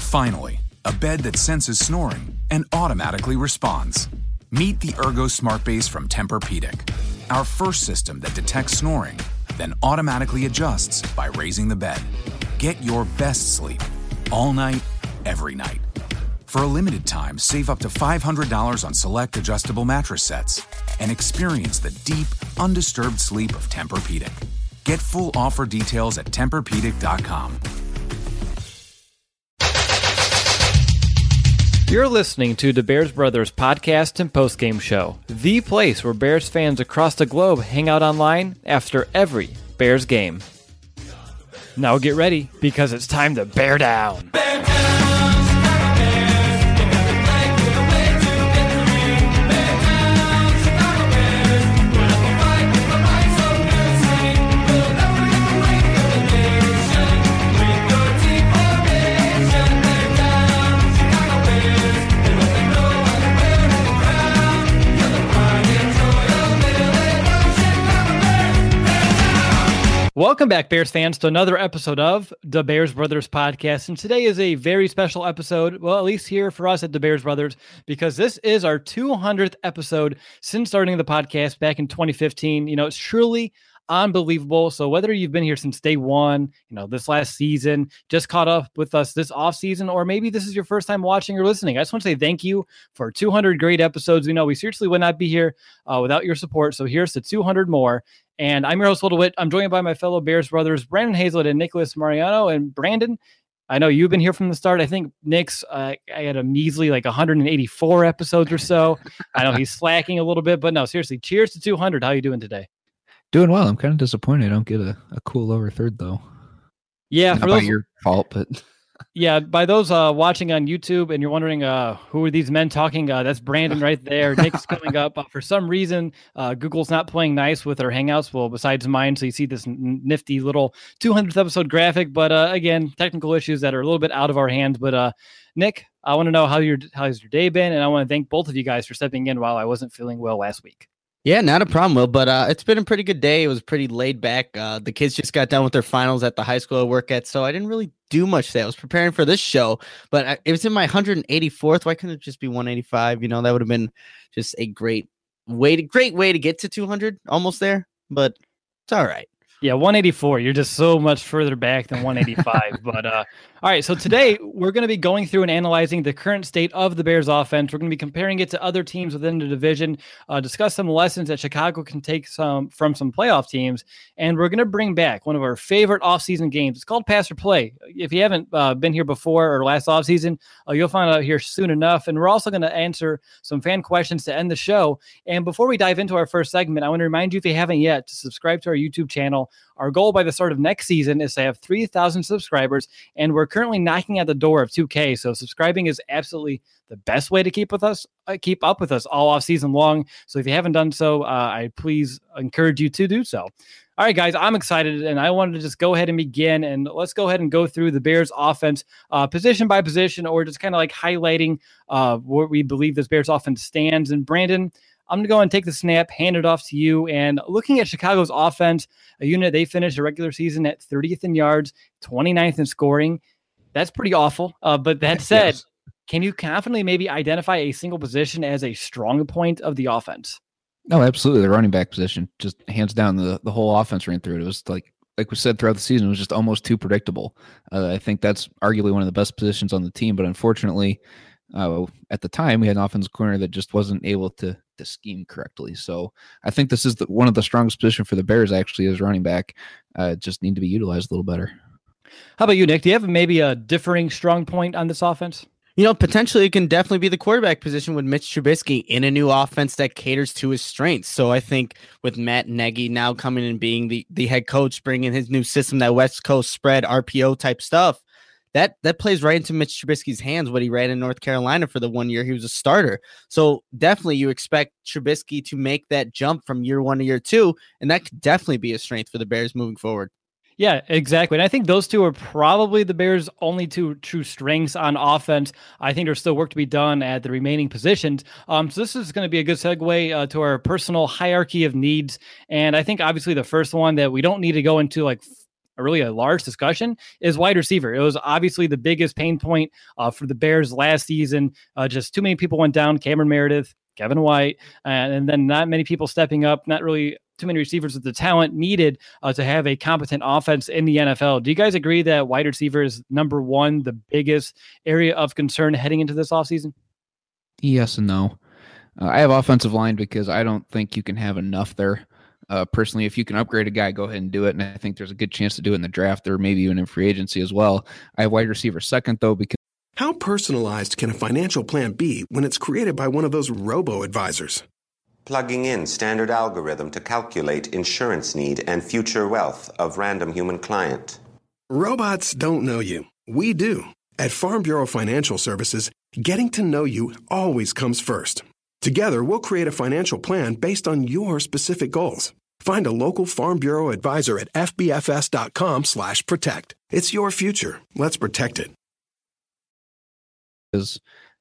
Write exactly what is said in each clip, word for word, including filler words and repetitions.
Finally, a bed that senses snoring and automatically responds. Meet the Ergo Smart Base from Tempur-Pedic, our first system that detects snoring, then automatically adjusts by raising the bed. Get your best sleep all night, every night. For a limited time, save up to five hundred dollars on select adjustable mattress sets and experience the deep, undisturbed sleep of Tempur-Pedic. Get full offer details at Tempur Pedic dot com. You're listening to the Bears Brothers podcast and postgame show, the place where Bears fans across the globe hang out online after every Bears game. Now get ready, because it's time to bear down. Bear down! Welcome back, Bears fans, to another episode of the Bears Brothers podcast. And today is a very special episode, well, at least here for us at the Bears Brothers, because this is our two hundredth episode since starting the podcast back in twenty fifteen. You know, it's truly unbelievable. So whether you've been here since day one, you know, this last season, just caught up with us this off season, or maybe this is your first time watching or listening, I just want to say thank you for two hundred great episodes. We know we seriously would not be here uh, without your support. So here's to two hundred more. And I'm your host, Will DeWitt. I'm joined by my fellow Bears brothers, Brandon Hazlett and Nicholas Mariano. And Brandon, I know you've been here from the start. I think Nick's, uh, I had a measly like one hundred eighty-four episodes or so. I know he's slacking a little bit, but no, seriously, cheers to two hundred. How are you doing today? Doing well. I'm kind of disappointed I don't get a, a cool lower third, though. Yeah. Not for by those, your fault, but... Yeah, by those uh, watching on YouTube and you're wondering uh, who are these men talking, uh, that's Brandon right there. Nick's coming up. Uh, for some reason, uh, Google's not playing nice with their Hangouts, well, besides mine, so you see this n- nifty little two hundredth episode graphic. But uh, again, technical issues that are a little bit out of our hands. But uh, Nick, I want to know how your how's your day been, and I want to thank both of you guys for stepping in while I wasn't feeling well last week. Yeah, not a problem, Will, but uh, it's been a pretty good day. It was pretty laid back. Uh, the kids just got done with their finals at the high school I work at, so I didn't really do much today. I was preparing for this show, but I, it was in my one hundred eighty-fourth. Why couldn't it just be one eighty-five? You know, that would have been just a great way to, great way to get to two hundred, almost there, but it's all right. Yeah, one eighty-four. You're just so much further back than one eighty-five. But uh, all right, so today we're going to be going through and analyzing the current state of the Bears offense. We're going to be comparing it to other teams within the division, uh, discuss some lessons that Chicago can take some from some playoff teams, and we're going to bring back one of our favorite offseason games. It's called Pass or Play. If you haven't uh, been here before or last offseason, uh, you'll find out here soon enough. And we're also going to answer some fan questions to end the show. And before we dive into our first segment, I want to remind you, if you haven't yet, to subscribe to our YouTube channel. Our goal by the start of next season is to have three thousand subscribers, and we're currently knocking at the door of two K. So subscribing is absolutely the best way to keep with us, uh, keep up with us all off season long. So if you haven't done so, uh, I please encourage you to do so. All right, guys, I'm excited, and I wanted to just go ahead and begin, and let's go ahead and go through the Bears offense uh, position by position, or just kind of like highlighting uh, where we believe this Bears offense stands. And Brandon, I'm going to go and take the snap, hand it off to you. And looking at Chicago's offense, a unit they finished the regular season at thirtieth in yards, twenty-ninth in scoring. That's pretty awful. Uh, but that said, yes. Can you confidently maybe identify a single position as a strong point of the offense? No, absolutely. The running back position, just hands down, the, the whole offense ran through it. It was like, like we said throughout the season, it was just almost too predictable. Uh, I think that's arguably one of the best positions on the team, but unfortunately, Uh, at the time, we had an offensive corner that just wasn't able to to scheme correctly. So I think this is the, one of the strongest positions for the Bears, actually, as running back. Uh, just need to be utilized a little better. How about you, Nick? Do you have maybe a differing strong point on this offense? You know, potentially it can definitely be the quarterback position with Mitch Trubisky in a new offense that caters to his strengths. So I think with Matt Nagy now coming and being the, the head coach, bringing his new system, that West Coast spread, R P O type stuff, That that plays right into Mitch Trubisky's hands, what he ran in North Carolina for the one year he was a starter. So definitely you expect Trubisky to make that jump from year one to year two, and that could definitely be a strength for the Bears moving forward. Yeah, exactly. And I think those two are probably the Bears' only two true strengths on offense. I think there's still work to be done at the remaining positions. Um, so this is going to be a good segue uh, to our personal hierarchy of needs. And I think obviously the first one that we don't need to go into like a really a large discussion, is wide receiver. It was obviously the biggest pain point uh, for the Bears last season. Uh, just too many people went down. Cameron Meredith, Kevin White, and, and then not many people stepping up, not really too many receivers with the talent needed uh, to have a competent offense in the N F L. Do you guys agree that wide receiver is number one, the biggest area of concern heading into this offseason? Yes and no. Uh, I have offensive line because I don't think you can have enough there. Uh, personally, if you can upgrade a guy, go ahead and do it. And I think there's a good chance to do it in the draft or maybe even in free agency as well. I have wide receiver second, though, because. How personalized can a financial plan be when it's created by one of those robo-advisors? Plugging in standard algorithm to calculate insurance need and future wealth of random human client. Robots don't know you. We do. At Farm Bureau Financial Services, getting to know you always comes first. Together, we'll create a financial plan based on your specific goals. Find a local Farm Bureau advisor at f b f s dot com slash protect. It's your future. Let's protect it. It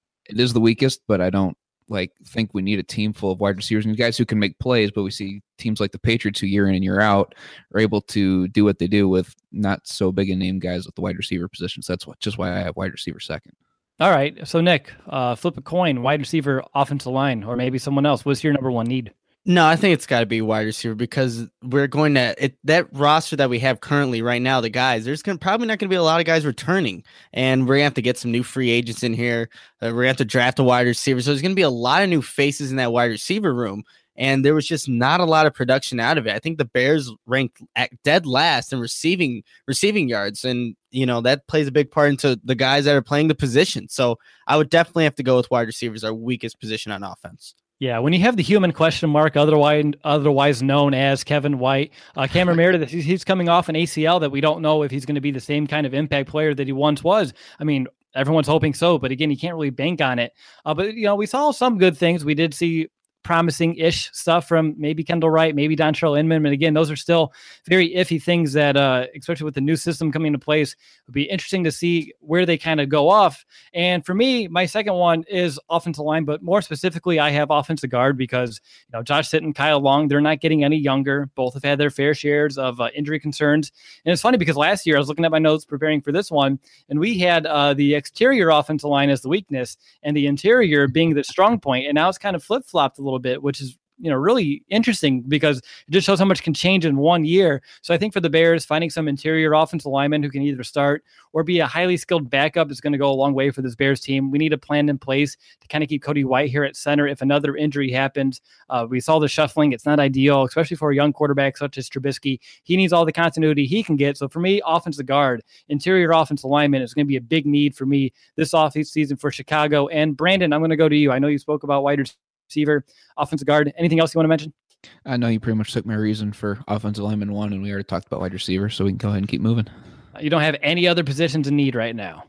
is the weakest, but I don't like think we need a team full of wide receivers and guys who can make plays, but we see teams like the Patriots who year in and year out are able to do what they do with not so big a name guys at the wide receiver positions. That's what, just why I have wide receiver second. All right. So Nick, uh, flip a coin, wide receiver, offensive line, or maybe someone else. What's your number one need? No, I think it's got to be wide receiver because we're going to it, that roster that we have currently right now, the guys, there's gonna, probably not going to be a lot of guys returning, and we're going to have to get some new free agents in here. Uh, we're going to have to draft a wide receiver. So there's going to be a lot of new faces in that wide receiver room, and there was just not a lot of production out of it. I think the Bears ranked at dead last in receiving receiving yards, and you know that plays a big part into the guys that are playing the position. So I would definitely have to go with wide receivers, our weakest position on offense. Yeah, when you have the human question mark, otherwise otherwise known as Kevin White, uh, Cameron Meredith, he's, he's coming off an A C L that we don't know if he's going to be the same kind of impact player that he once was. I mean, everyone's hoping so, but again, you can't really bank on it. Uh, but, you know, we saw some good things. We did see promising-ish stuff from maybe Kendall Wright, maybe Dontrell Inman. And again, those are still very iffy things that, uh, especially with the new system coming into place, would be interesting to see where they kind of go off. And for me, my second one is offensive line, but more specifically, I have offensive guard because, you know, Josh Sitton, Kyle Long, they're not getting any younger. Both have had their fair shares of uh, injury concerns. And it's funny because last year I was looking at my notes preparing for this one, and we had uh, the exterior offensive line as the weakness and the interior being the strong point. And now it's kind of flip-flopped a little bit, which is, you know, really interesting because it just shows how much can change in one year. So I think for the Bears, finding some interior offensive linemen who can either start or be a highly skilled backup is going to go a long way for this Bears team. We need a plan in place to kind of keep Cody White here at center if another injury happens. Uh, we saw the shuffling. It's not ideal, especially for a young quarterback such as Trubisky. He needs all the continuity he can get. So for me, offensive guard, interior offensive lineman is going to be a big need for me this offseason for Chicago. And Brandon, I'm going to go to you. I know you spoke about wide receiver, offensive guard. Anything else you want to mention? I know you pretty much took my reason for offensive lineman one, and we already talked about wide receiver, so we can go ahead and keep moving. You don't have any other positions in need right now?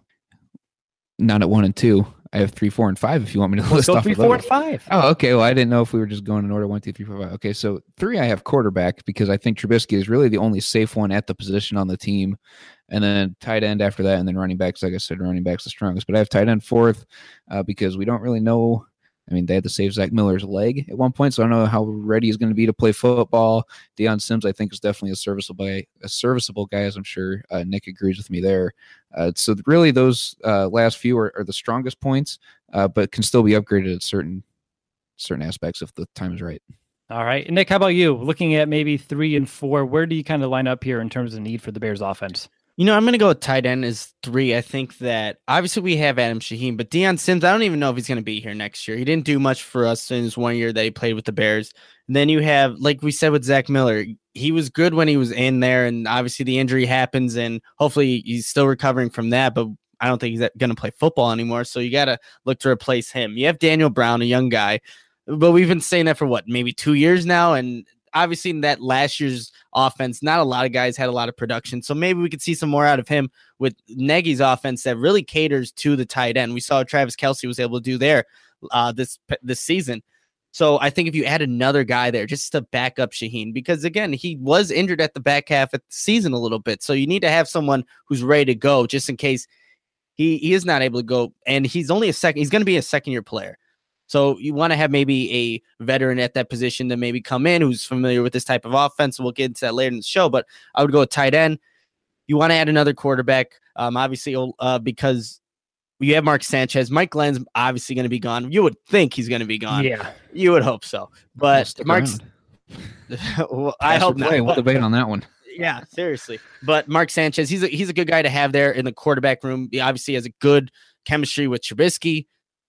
Not at one and two. I have three, four, and five if you want me to Let's list go off three, of four, those. and five. Oh, okay. Well, I didn't know if we were just going in order one, two, three, four, five. Okay, so three, I have quarterback because I think Trubisky is really the only safe one at the position on the team. And then tight end after that, and then running backs. Like I said, running backs the strongest. But I have tight end fourth uh, because we don't really know. I mean, they had to save Zach Miller's leg at one point, so I don't know how ready he's going to be to play football. Deion Sims, I think, is definitely a serviceable guy, a serviceable guy, as I'm sure uh, Nick agrees with me there. Uh, so really, those uh, last few are, are the strongest points, uh, but can still be upgraded at certain certain aspects if the time is right. All right, Nick, how about you? Looking at maybe three and four, where do you kind of line up here in terms of need for the Bears offense? You know, I'm going to go with tight end as three. I think that obviously we have Adam Shaheen, but Deion Sims, I don't even know if he's going to be here next year. He didn't do much for us in his one year that he played with the Bears. And then you have, like we said with Zach Miller, he was good when he was in there, and obviously the injury happens, and hopefully he's still recovering from that, but I don't think he's going to play football anymore, so you got to look to replace him. You have Daniel Brown, a young guy, but we've been saying that for, what, maybe two years now, and obviously in that last year's offense, not a lot of guys had a lot of production. So maybe we could see some more out of him with Nagy's offense that really caters to the tight end. We saw what Travis Kelce was able to do there uh, this this season. So I think if you add another guy there just to back up Shaheen, because again, he was injured at the back half of the season a little bit. So you need to have someone who's ready to go just in case he, he is not able to go. And he's only a second, he's going to be a second year player. So you want to have maybe a veteran at that position to maybe come in who's familiar with this type of offense. We'll get into that later in the show, but I would go with tight end. you want to add another quarterback, um, obviously, uh, because you have Mark Sanchez. Mike Glenn's obviously going to be gone. You would think he's going to be gone. Yeah. You would hope so. But Mark's, well, I hope not. We'll debate on that one. Yeah, seriously. But Mark Sanchez, he's a, he's a good guy to have there in the quarterback room. He obviously has a good chemistry with Trubisky.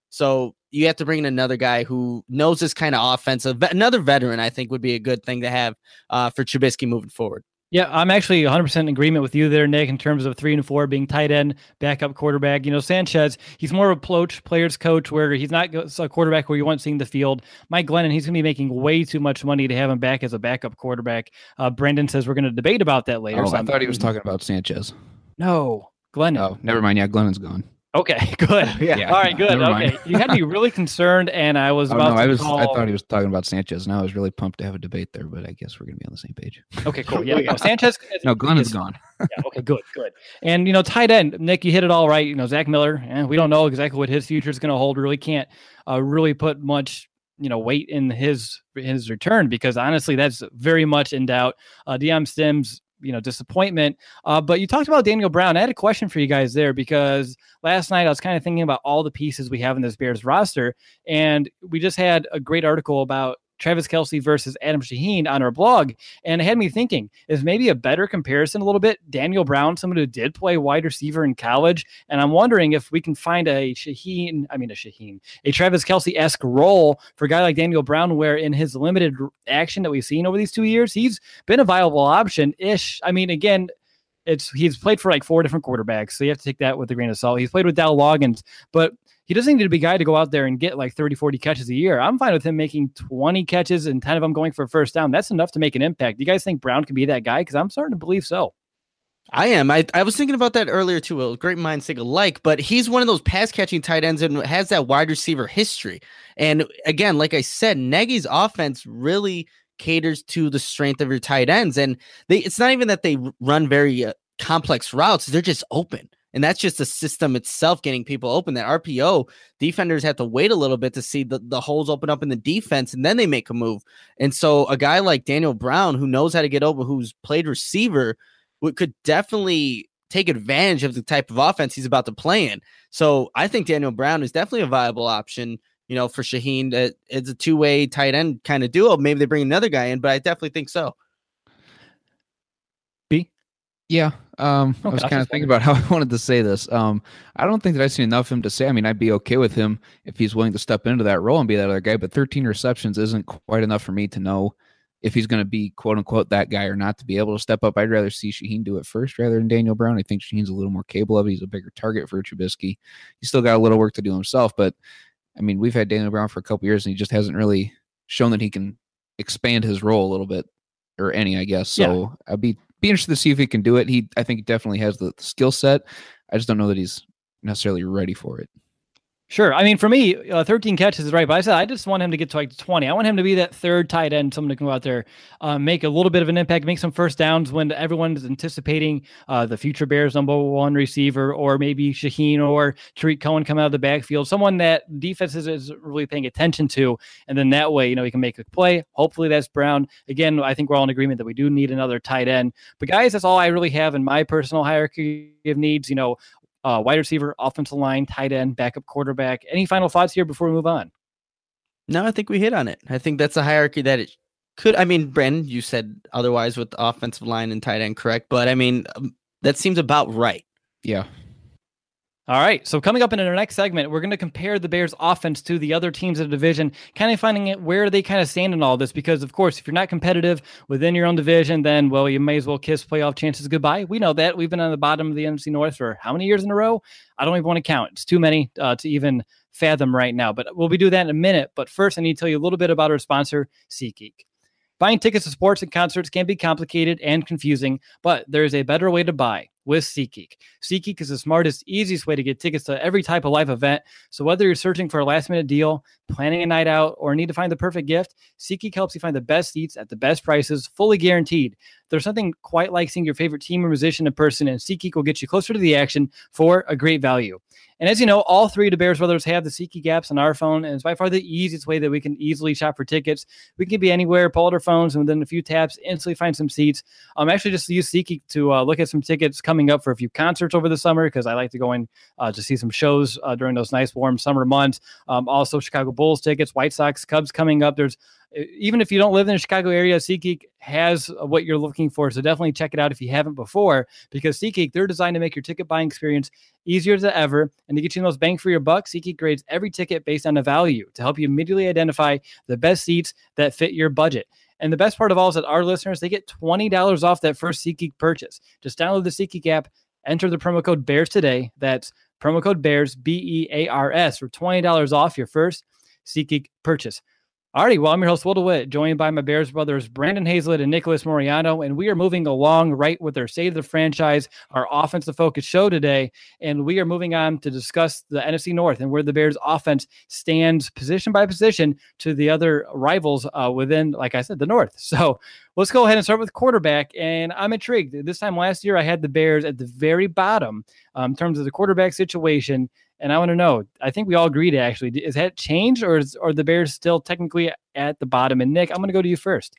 So you have to bring in another guy who knows this kind of offense. Another veteran, I think, would be a good thing to have uh, for Trubisky moving forward. Yeah, I'm actually one hundred percent in agreement with you there, Nick, in terms of three and four being tight end, backup quarterback. You know, Sanchez, he's more of a ploach, player's coach, where he's not a quarterback where you want seeing the field. Mike Glennon, he's going to be making way too much money to have him back as a backup quarterback. Uh, Brandon says we're going to debate about that later. Oh, so I thought he was talking about Sanchez. No, Glennon. Oh, never mind. Yeah, Glennon's gone. Okay, good. Yeah. All right, good. Okay, you had me really concerned, and I was Oh, about no, to I was. call... I thought he was talking about Sanchez, and I was really pumped to have a debate there. But I guess we're gonna be on the same page. Okay, cool. Yeah, no, Sanchez. No, Glennon's gone. Yeah, okay, good, good. And you know, tight end, Nick, you hit it all right. You know, Zach Miller. Eh, we don't know exactly what his future is going to hold. Really can't uh, really put much, you know, weight in his his return because honestly, that's very much in doubt. Uh, Deion Sims. You know, disappointment. Uh, but you talked about Daniel Brown. I had a question for you guys there because last night I was kind of thinking about all the pieces we have in this Bears roster. And we just had a great article about Travis Kelce versus Adam Shaheen on our blog. And it had me thinking, is maybe a better comparison a little bit Daniel Brown, someone who did play wide receiver in college. And I'm wondering if we can find a Shaheen, I mean a Shaheen, a Travis Kelce-esque role for a guy like Daniel Brown, where in his limited action that we've seen over these two years, he's been a viable option-ish. I mean, again, it's he's played for like four different quarterbacks, so you have to take that with a grain of salt. He's played with Dow Loggins, but he doesn't need to be a guy to go out there and get like thirty, forty catches a year. I'm fine with him making twenty catches and ten of them going for a first down. That's enough to make an impact. Do you guys think Brown can be that guy? Because I'm starting to believe so. I am. I, I was thinking about that earlier too. Well, great minds think alike, but he's one of those pass catching tight ends and has that wide receiver history. And again, like I said, Nagy's offense really caters to the strength of your tight ends. And they it's not even that they run very uh, complex routes. They're just open. And that's just the system itself getting people open. That R P O, defenders have to wait a little bit to see the, the holes open up in the defense, and then they make a move. And so a guy like Daniel Brown, who knows how to get open, who's played receiver, would, could definitely take advantage of the type of offense he's about to play in. So I think Daniel Brown is definitely a viable option, you know, for Shaheen. Uh, it's a two-way tight end kind of duo. Maybe they bring another guy in, but I definitely think so. Yeah, um, okay, I was kind of thinking about how I wanted to say this. Um, I don't think that I've seen enough of him to say. I mean, I'd be okay with him if he's willing to step into that role and be that other guy, but thirteen receptions isn't quite enough for me to know if he's going to be quote unquote that guy or not to be able to step up. I'd rather see Shaheen do it first rather than Daniel Brown. I think Shaheen's a little more capable of it. He's a bigger target for Trubisky. He's still got a little work to do himself, but I mean, we've had Daniel Brown for a couple years and he just hasn't really shown that he can expand his role a little bit or any, I guess. So yeah. I'd be Be interested to see if he can do it. He, I think, he definitely has the, the skill set. I just don't know that he's necessarily ready for it. Sure. I mean, for me, uh, thirteen catches is right, but I said I just want him to get to like twenty. I want him to be that third tight end, someone to come out there, uh, make a little bit of an impact, make some first downs when everyone is anticipating uh, the future Bears number one receiver, or maybe Shaheen or Tariq Cohen come out of the backfield, someone that defenses is really paying attention to, and then that way, you know, he can make a play. Hopefully that's Brown. Again, I think we're all in agreement that we do need another tight end. But guys, that's all I really have in my personal hierarchy of needs. You know, Uh, wide receiver, offensive line, tight end, backup quarterback. Any final thoughts here before we move on? No, I think we hit on it. I think that's a hierarchy that it could. I mean, Brandon, you said otherwise with the offensive line and tight end, correct? But I mean, um, that seems about right. Yeah. All right. So coming up in our next segment, we're going to compare the Bears offense to the other teams in the division, kind of finding it where they kind of stand in all this. Because of course, if you're not competitive within your own division, then, well, you may as well kiss playoff chances goodbye. We know that. We've been on the bottom of the N F C North for how many years in a row? I don't even want to count. It's too many uh, to even fathom right now, but we'll be doing that in a minute. But first, I need to tell you a little bit about our sponsor, SeatGeek. Buying tickets to sports and concerts can be complicated and confusing, but there is a better way to buy with SeatGeek. SeatGeek is the smartest, easiest way to get tickets to every type of live event. So whether you're searching for a last-minute deal, planning a night out, or need to find the perfect gift, SeatGeek helps you find the best seats at the best prices, fully guaranteed. There's something quite like seeing your favorite team or musician in person, and SeatGeek will get you closer to the action for a great value. And as you know, all three of the Bears brothers have the SeatGeek apps on our phone, and it's by far the easiest way that we can easily shop for tickets. We can be anywhere, pull out our phones, and within a few taps, instantly find some seats. Um, actually, just use SeatGeek to uh, look at some tickets coming up for a few concerts over the summer because I like to go in uh, to see some shows uh, during those nice warm summer months. Um, also, Chicago Bulls tickets, White Sox, Cubs coming up. There's even if you don't live in the Chicago area, SeatGeek has what you're looking for. So definitely check it out if you haven't before, because SeatGeek, they're designed to make your ticket buying experience easier than ever. And to get you the most bang for your buck, SeatGeek grades every ticket based on the value to help you immediately identify the best seats that fit your budget. And the best part of all is that our listeners, they get twenty dollars off that first SeatGeek purchase. Just download the SeatGeek app, enter the promo code BEARS today. That's promo code BEARS, B E A R S, for twenty dollars off your first SeatGeek purchase. Alrighty, well, I'm your host, Will DeWitt, joined by my Bears brothers, Brandon Hazlett and Nicholas Moriano, and we are moving along right with our State of the Franchise, our offensive focus show today, and we are moving on to discuss the N F C North and where the Bears offense stands position by position to the other rivals uh, within, like I said, the North. So let's go ahead and start with quarterback, and I'm intrigued. This time last year, I had the Bears at the very bottom um, in terms of the quarterback situation. And I want to know, I think we all agreed, actually, is that changed, or is, are the Bears still technically at the bottom? And Nick, I'm going to go to you first.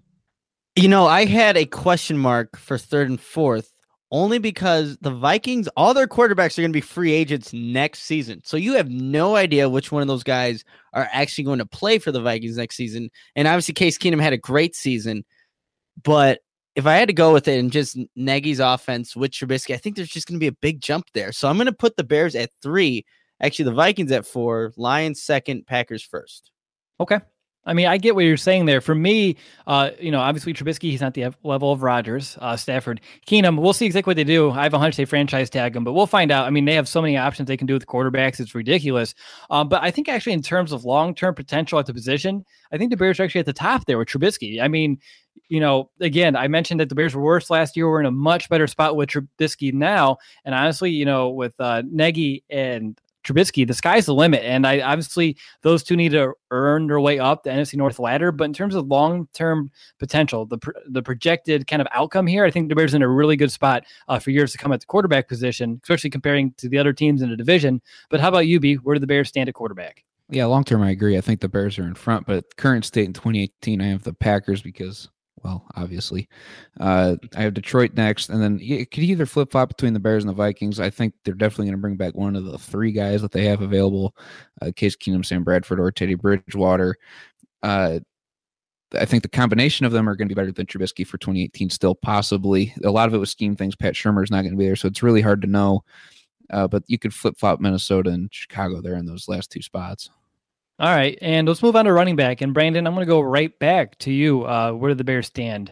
You know, I had a question mark for third and fourth, only because the Vikings, all their quarterbacks are going to be free agents next season. So you have no idea which one of those guys are actually going to play for the Vikings next season. And obviously Case Keenum had a great season, but if I had to go with it and just Nagy's offense with Trubisky, I think there's just going to be a big jump there. So I'm going to put the Bears at three, actually the Vikings at four, Lions second, Packers first. Okay. I mean, I get what you're saying there. For me, uh, you know, obviously Trubisky, he's not the level of Rodgers, uh, Stafford, Keenum. We'll see exactly what they do. I have a hunch they franchise tag him, but we'll find out. I mean, they have so many options they can do with quarterbacks. It's ridiculous. Um, but I think actually in terms of long-term potential at the position, I think the Bears are actually at the top there with Trubisky. I mean, you know, again, I mentioned that the Bears were worse last year. We're in a much better spot with Trubisky now. And honestly, you know, with uh, Nagy and Trubisky, the sky's the limit. And I obviously those two need to earn their way up the N F C North ladder. But in terms of long-term potential, the the projected kind of outcome here, I think the Bears are in a really good spot uh, for years to come at the quarterback position, especially comparing to the other teams in the division. But how about you, B? Where do the Bears stand at quarterback? Yeah, long-term, I agree. I think the Bears are in front, but current state in twenty eighteen, I have the Packers because, well, obviously. Uh, I have Detroit next, and then it could either flip-flop between the Bears and the Vikings. I think they're definitely going to bring back one of the three guys that they have available, uh, Case Keenum, Sam Bradford, or Teddy Bridgewater. Uh, I think the combination of them are going to be better than Trubisky for twenty eighteen still, possibly. A lot of it was scheme things. Pat Shurmur is not going to be there, so it's really hard to know. Uh, but you could flip-flop Minnesota and Chicago there in those last two spots. All right, and let's move on to running back. And Brandon, I'm going to go right back to you. Uh, where do the Bears stand?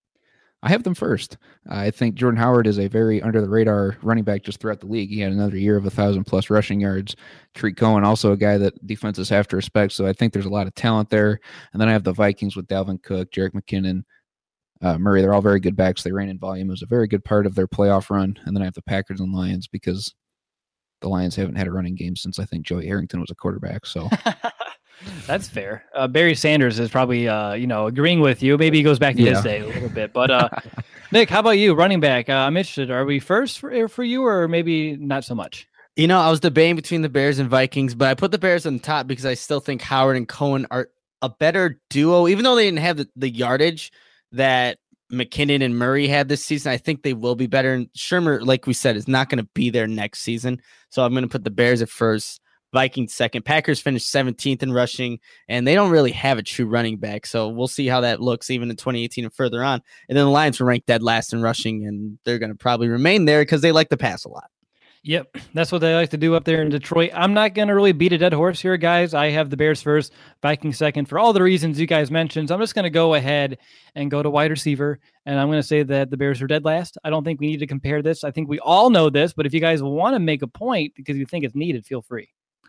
I have them first. I think Jordan Howard is a very under-the-radar running back just throughout the league. He had another year of one thousand plus rushing yards. Tariq Cohen, also a guy that defenses have to respect, so I think there's a lot of talent there. And then I have the Vikings with Dalvin Cook, Jerick McKinnon, uh, Murray. They're all very good backs. They ran in volume. It was a very good part of their playoff run. And then I have the Packers and Lions because the Lions haven't had a running game since I think Joey Harrington was a quarterback. So that's fair. Uh, Barry Sanders is probably, uh, you know, agreeing with you. Maybe he goes back to yeah. his day a little bit. But uh, Nick, how about you, running back? Uh, I'm interested. Are we first for for you, or maybe not so much? You know, I was debating between the Bears and Vikings, but I put the Bears on top because I still think Howard and Cohen are a better duo, even though they didn't have the, the yardage that McKinnon and Murray had this season. I think they will be better. And Shurmur, like we said, is not going to be there next season. So I'm going to put the Bears at first, Vikings second. Packers finished seventeenth in rushing, and they don't really have a true running back. So we'll see how that looks even in twenty eighteen and further on. And then the Lions were ranked dead last in rushing, and they're going to probably remain there because they like to pass a lot. Yep, that's what they like to do up there in Detroit. I'm not going to really beat a dead horse here, guys. I have the Bears first, Vikings second, for all the reasons you guys mentioned. So I'm just going to go ahead and go to wide receiver, and I'm going to say that the Bears are dead last. I don't think we need to compare this. I think we all know this, but if you guys want to make a point because you think it's needed, feel free.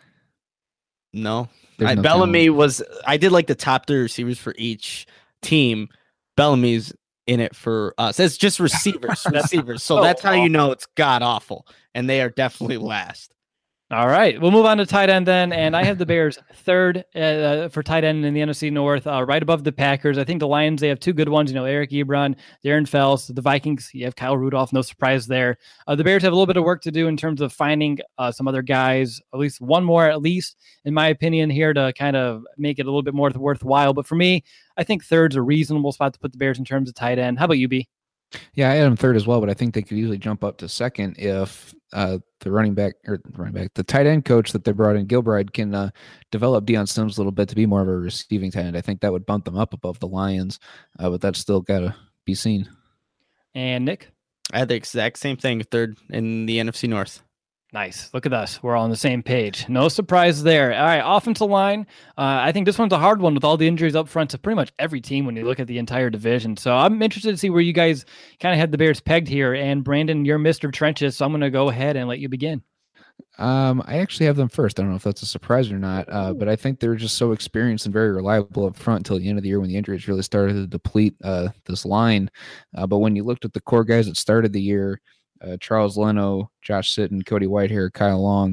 No, There's I, no Bellamy talent. was, I did like the top three receivers for each team. Bellamy's in it for us. It's just receivers, receivers. So so that's how awful. you know it's god awful. And they are definitely last. All right, we'll move on to tight end then, and I have the Bears third uh, for tight end in the N F C North, uh, right above the Packers. I think the Lions, they have two good ones, you know, Eric Ebron, Darren Fells. The Vikings, you have Kyle Rudolph, no surprise there. Uh, the Bears have a little bit of work to do in terms of finding uh, some other guys, at least one more, at least, in my opinion, here to kind of make it a little bit more worthwhile. But for me, I think third's a reasonable spot to put the Bears in terms of tight end. How about you, B? Yeah, I had him third as well, but I think they could easily jump up to second if uh, the running back or running back, the tight end coach that they brought in, Gilbride, can uh, develop Deion Sims a little bit to be more of a receiving tight end. I think that would bump them up above the Lions, uh, but that's still got to be seen. And Nick? I had the exact same thing, third in the N F C North. Nice. Look at us. We're all on the same page. No surprise there. All right, offensive line. Uh, I think this one's a hard one with all the injuries up front to pretty much every team when you look at the entire division. So I'm interested to see where you guys kind of had the Bears pegged here. And Brandon, you're Mister Trenches, so I'm going to go ahead and let you begin. Um, I actually have them first. I don't know if that's a surprise or not, uh, but I think they're just so experienced and very reliable up front until the end of the year when the injuries really started to deplete uh, this line. Uh, but when you looked at the core guys that started the year, Uh, Charles Leno, Josh Sitton, Cody Whitehair, Kyle Long,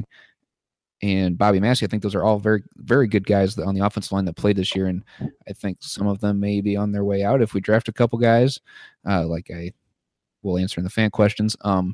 and Bobby Massey. I think those are all very, very good guys on the offensive line that played this year. And I think some of them may be on their way out if we draft a couple guys, uh, like I will answer in the fan questions. Um,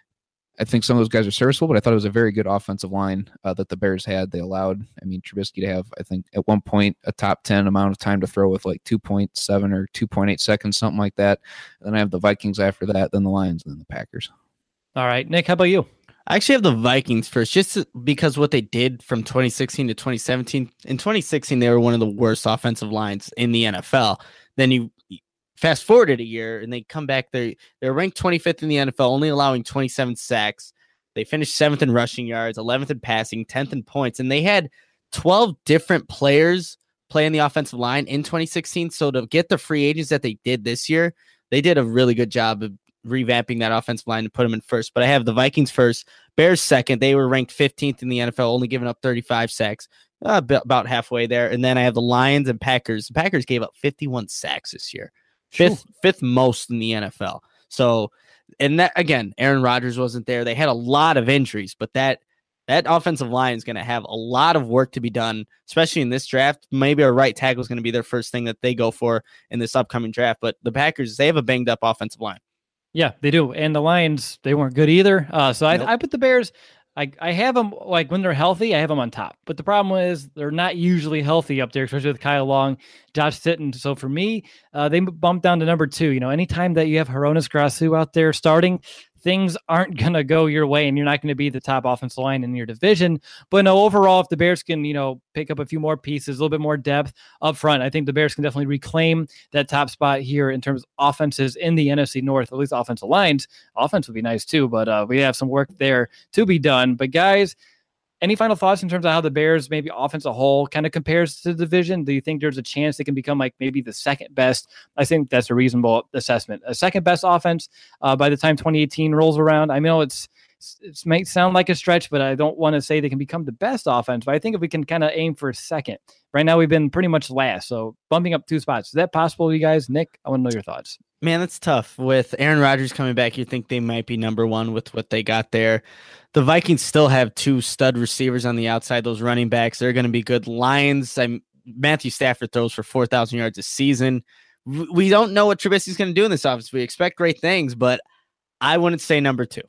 I think some of those guys are serviceable, but I thought it was a very good offensive line uh, that the Bears had. They allowed, I mean, Trubisky to have, I think, at one point, a top ten amount of time to throw with like two point seven or two point eight seconds, something like that. And then I have the Vikings after that, then the Lions, then the Packers. All right, Nick, how about you? I actually have the Vikings first, just because what they did from twenty sixteen to twenty seventeen. In twenty sixteen, they were one of the worst offensive lines in the N F L. Then you fast forwarded a year, and they come back. They they're ranked twenty-fifth in the N F L, only allowing twenty-seven sacks. They finished seventh in rushing yards, eleventh in passing, tenth in points, and they had twelve different players play in the offensive line in twenty sixteen. So to get the free agents that they did this year, they did a really good job of revamping that offensive line and put them in first. But I have the Vikings first, Bears second. They were ranked fifteenth in the N F L, only giving up thirty-five sacks, uh, about halfway there. And then I have the Lions and Packers. The Packers gave up fifty-one sacks this year, fifth Ooh. fifth most in the N F L. So, and that again, Aaron Rodgers wasn't there. They had a lot of injuries, but that that offensive line is going to have a lot of work to be done, especially in this draft. Maybe a right tackle is going to be their first thing that they go for in this upcoming draft. But the Packers, they have a banged up offensive line. Yeah, they do. And the Lions, they weren't good either. Uh, so nope. I, I put the Bears, I, I have them, like when they're healthy, I have them on top. But the problem is they're not usually healthy up there, especially with Kyle Long, Josh Sitton. So for me, uh, they bumped down to number two. You know, anytime that you have Hronis Grasu out there starting, things aren't going to go your way and you're not going to be the top offensive line in your division. But no, overall, if the Bears can, you know, pick up a few more pieces, a little bit more depth up front, I think the Bears can definitely reclaim that top spot here in terms of offenses in the N F C North, at least offensive lines. Offense would be nice too, but uh, we have some work there to be done. But guys, any final thoughts in terms of how the Bears, maybe offense as a whole, kind of compares to the division? Do you think there's a chance they can become like maybe the second best? I think that's a reasonable assessment. A second best offense uh, by the time twenty eighteen rolls around. I know it's it might sound like a stretch, but I don't want to say they can become the best offense. But I think if we can kind of aim for second. Right now, we've been pretty much last, so bumping up two spots. Is that possible, you guys? Nick, I want to know your thoughts. Man, that's tough. With Aaron Rodgers coming back, you think they might be number one with what they got there. The Vikings still have two stud receivers on the outside. Those running backs, they're going to be good. Lions, I'm, Matthew Stafford throws for four thousand yards a season. We don't know what Trubisky's going to do in this offense. We expect great things, but I wouldn't say number two.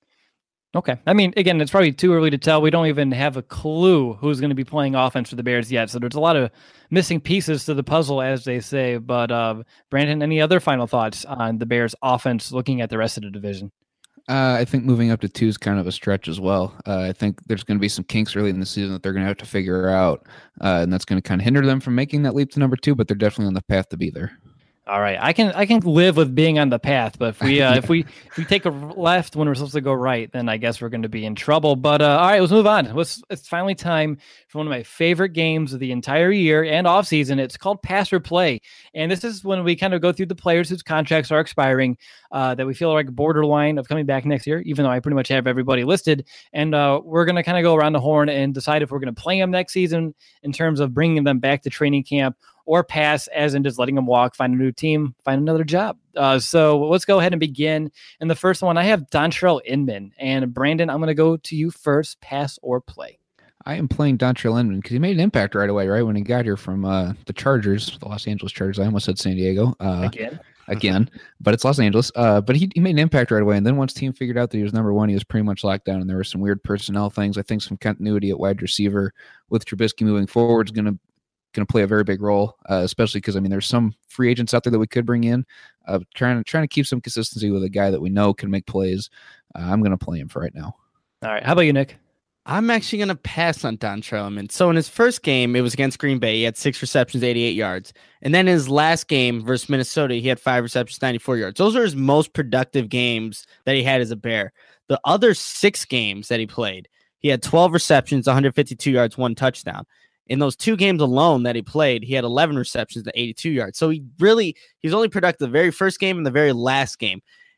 Okay. I mean, again, it's probably too early to tell. We don't even have a clue who's going to be playing offense for the Bears yet. So there's a lot of missing pieces to the puzzle, as they say. But uh, Brandon, any other final thoughts on the Bears offense looking at the rest of the division? Uh, I think moving up to two is kind of a stretch as well. Uh, I think there's going to be some kinks early in the season that they're going to have to figure out. Uh, and that's going to kind of hinder them from making that leap to number two, but they're definitely on the path to be there. All right, I can I can live with being on the path, but if we uh, yeah. if we if we take a left when we're supposed to go right, then I guess we're going to be in trouble. But uh, all right, let's move on. Let's, it's finally time for one of my favorite games of the entire year and off season. It's called Pass or Play, and this is when we kind of go through the players whose contracts are expiring uh, that we feel like borderline of coming back next year. Even though I pretty much have everybody listed, and uh, we're going to kind of go around the horn and decide if we're going to play them next season in terms of bringing them back to training camp, or pass as in just letting them walk, find a new team, find another job. Uh, so let's go ahead and begin. And the first one, I have Dontrelle Inman. And Brandon, I'm going to go to you first, pass or play. I am playing Dontrelle Inman because he made an impact right away, right? When he got here from uh, the Chargers, the Los Angeles Chargers. I almost said San Diego. Uh, again. Again, but it's Los Angeles. Uh, but he, he made an impact right away. And then once team figured out that he was number one, he was pretty much locked down. And there were some weird personnel things. I think some continuity at wide receiver with Trubisky moving forward is going to going to play a very big role, uh, especially because I mean there's some free agents out there that we could bring in. Uh, trying to trying to keep some consistency with a guy that we know can make plays. Uh, I'm going to play him for right now. All right, how about you, Nick? I'm actually going to pass on Dontrelle Inman. So in his first game, it was against Green Bay. He had six receptions, eighty-eight yards. And then his last game versus Minnesota, he had five receptions, ninety-four yards. Those are his most productive games that he had as a Bear. The other six games that he played, he had twelve receptions, one hundred fifty-two yards, one touchdown. In those two games alone that he played, he had eleven receptions to eighty-two yards. So he really, he's only productive the very first game and the very last game.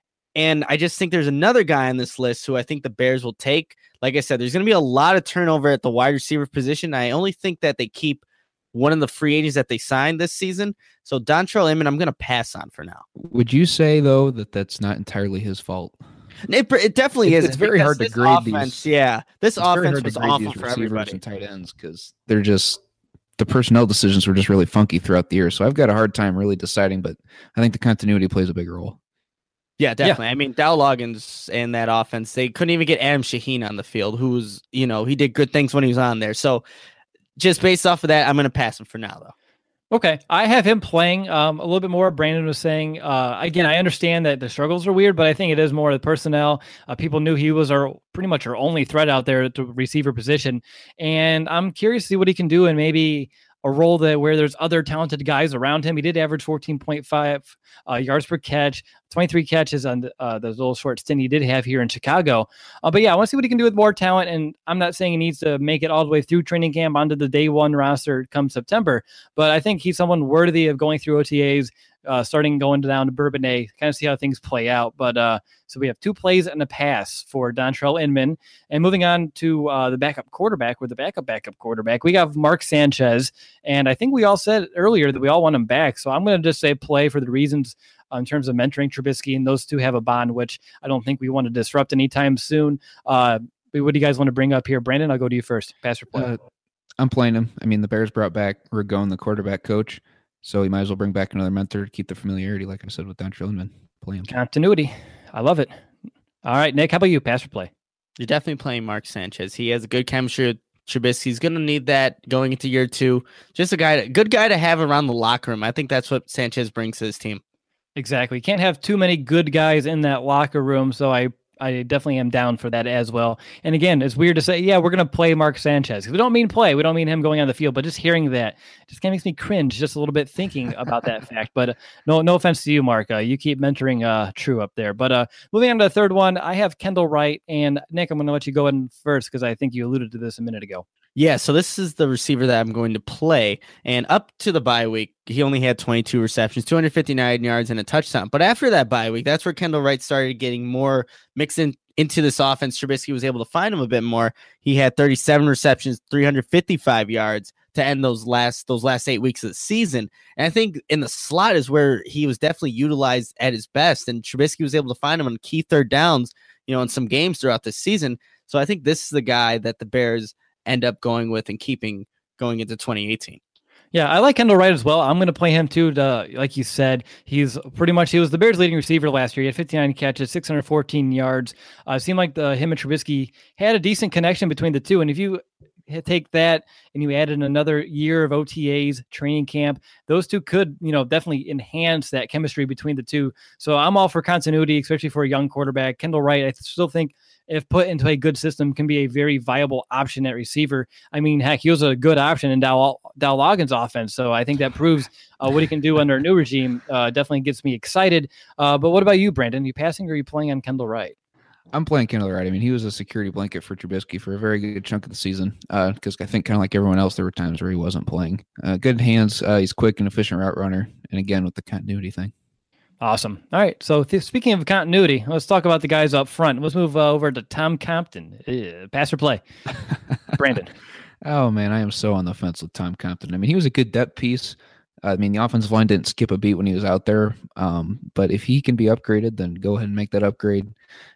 And I just think there's another guy on this list who I think the Bears will take. Like I said, there's going to be a lot of turnover at the wide receiver position. I only think that they keep one of the free agents that they signed this season. So Dontrelle Inman, I'm going to pass on for now. Would you say, though, that that's not entirely his fault? It, it definitely it's, is. It's very hard to grade offense, these. Yeah, this it's offense was awful for everybody. And tight ends because they're just the personnel decisions were just really funky throughout the year. So I've got a hard time really deciding, but I think the continuity plays a big role. Yeah, definitely. Yeah. I mean, Dow Loggins and that offense, they couldn't even get Adam Shaheen on the field, who was, you know, he did good things when he was on there. So just based off of that, I'm going to pass him for now, though. Okay. I have him playing um, a little bit more. Brandon was saying, uh, again, I understand that the struggles are weird, but I think it is more the personnel. Uh, people knew he was our pretty much our only threat out there at the receiver position. And I'm curious to see what he can do and maybe a role that where there's other talented guys around him. He did average fourteen point five uh, yards per catch, twenty-three catches on the, uh, those little short stint he did have here in Chicago. Uh, but yeah, I want to see what he can do with more talent. And I'm not saying he needs to make it all the way through training camp onto the day one roster come September, but I think he's someone worthy of going through O T As, uh, starting going down to Bourbonnais, kind of see how things play out. But uh, so we have two plays and a pass for Dontrelle Inman. And moving on to uh, the backup quarterback, with the backup backup quarterback, we got Mark Sanchez. And I think we all said earlier that we all want him back. So I'm going to just say play for the reasons uh, in terms of mentoring Trubisky, and those two have a bond, which I don't think we want to disrupt anytime soon. Uh, what do you guys want to bring up here? Brandon, I'll go to you first. Pass or play? Uh, I'm playing him. I mean, the Bears brought back Ragone, the quarterback coach. So you might as well bring back another mentor to keep the familiarity, like I said, with Dontrelle Inman. Play him. Continuity. I love it. All right, Nick, how about you? Pass or play? You're definitely playing Mark Sanchez. He has a good chemistry with Trubisky. He's going to need that going into year two. Just a guy, good guy to have around the locker room. I think that's what Sanchez brings to his team. Exactly. Can't have too many good guys in that locker room. So I I definitely am down for that as well. And again, it's weird to say, yeah, we're going to play Mark Sanchez. We don't mean play. We don't mean him going on the field, but just hearing that just kind of makes me cringe just a little bit thinking about that fact. But uh, no no offense to you, Mark. Uh, you keep mentoring uh, True up there. But uh, moving on to the third one, I have Kendall Wright. And Nick, I'm going to let you go in first because I think you alluded to this a minute ago. Yeah, so this is the receiver that I'm going to play. And up to the bye week, he only had twenty-two receptions, two hundred fifty-nine yards, and a touchdown. But after that bye week, that's where Kendall Wright started getting more mixed in into this offense. Trubisky was able to find him a bit more. He had thirty-seven receptions, three hundred fifty-five yards to end those last those last eight weeks of the season. And I think in the slot is where he was definitely utilized at his best. And Trubisky was able to find him on key third downs, you know, in some games throughout the season. So I think this is the guy that the Bears end up going with and keeping going into twenty eighteen. Yeah, I like Kendall Wright as well. I'm going to play him too. To, like you said, he's pretty much, he was the Bears' leading receiver last year. He had fifty-nine catches, six hundred fourteen yards. Uh, it seemed like the him and Trubisky had a decent connection between the two. And if you take that and you add in another year of O T As, training camp, those two could, you know, definitely enhance that chemistry between the two. So I'm all for continuity, especially for a young quarterback. Kendall Wright, I still think, if put into a good system, can be a very viable option at receiver. I mean, heck, he was a good option in Dow, Dow Loggins' offense. So I think that proves uh, what he can do under a new regime. Uh, definitely gets me excited. Uh, but what about you, Brandon? Are you passing or are you playing on Kendall Wright? I'm playing Kendall Wright. I mean, he was a security blanket for Trubisky for a very good chunk of the season because uh, I think kind of like everyone else, there were times where he wasn't playing. Uh, good hands. Uh, he's quick and efficient route runner. And again, with the continuity thing. Awesome. All right. So th- speaking of continuity, let's talk about the guys up front. Let's move uh, over to Tom Compton. Uh, pass or play? Brandon. Oh, man, I am so on the fence with Tom Compton. I mean, he was a good depth piece. I mean, the offensive line didn't skip a beat when he was out there. Um, but if he can be upgraded, then go ahead and make that upgrade.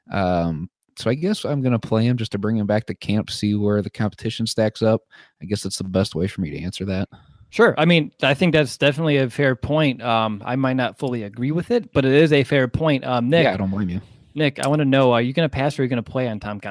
Um, so I guess I'm going to play him just to bring him back to camp, see where the competition stacks up. I guess that's the best way for me to answer that. Sure. I mean, I think that's definitely a fair point. Um, I might not fully agree with it, but it is a fair point. Um, Nick, yeah, I don't blame you. Nick, I want to know, are you going to pass or are you going to play on Tom Compton?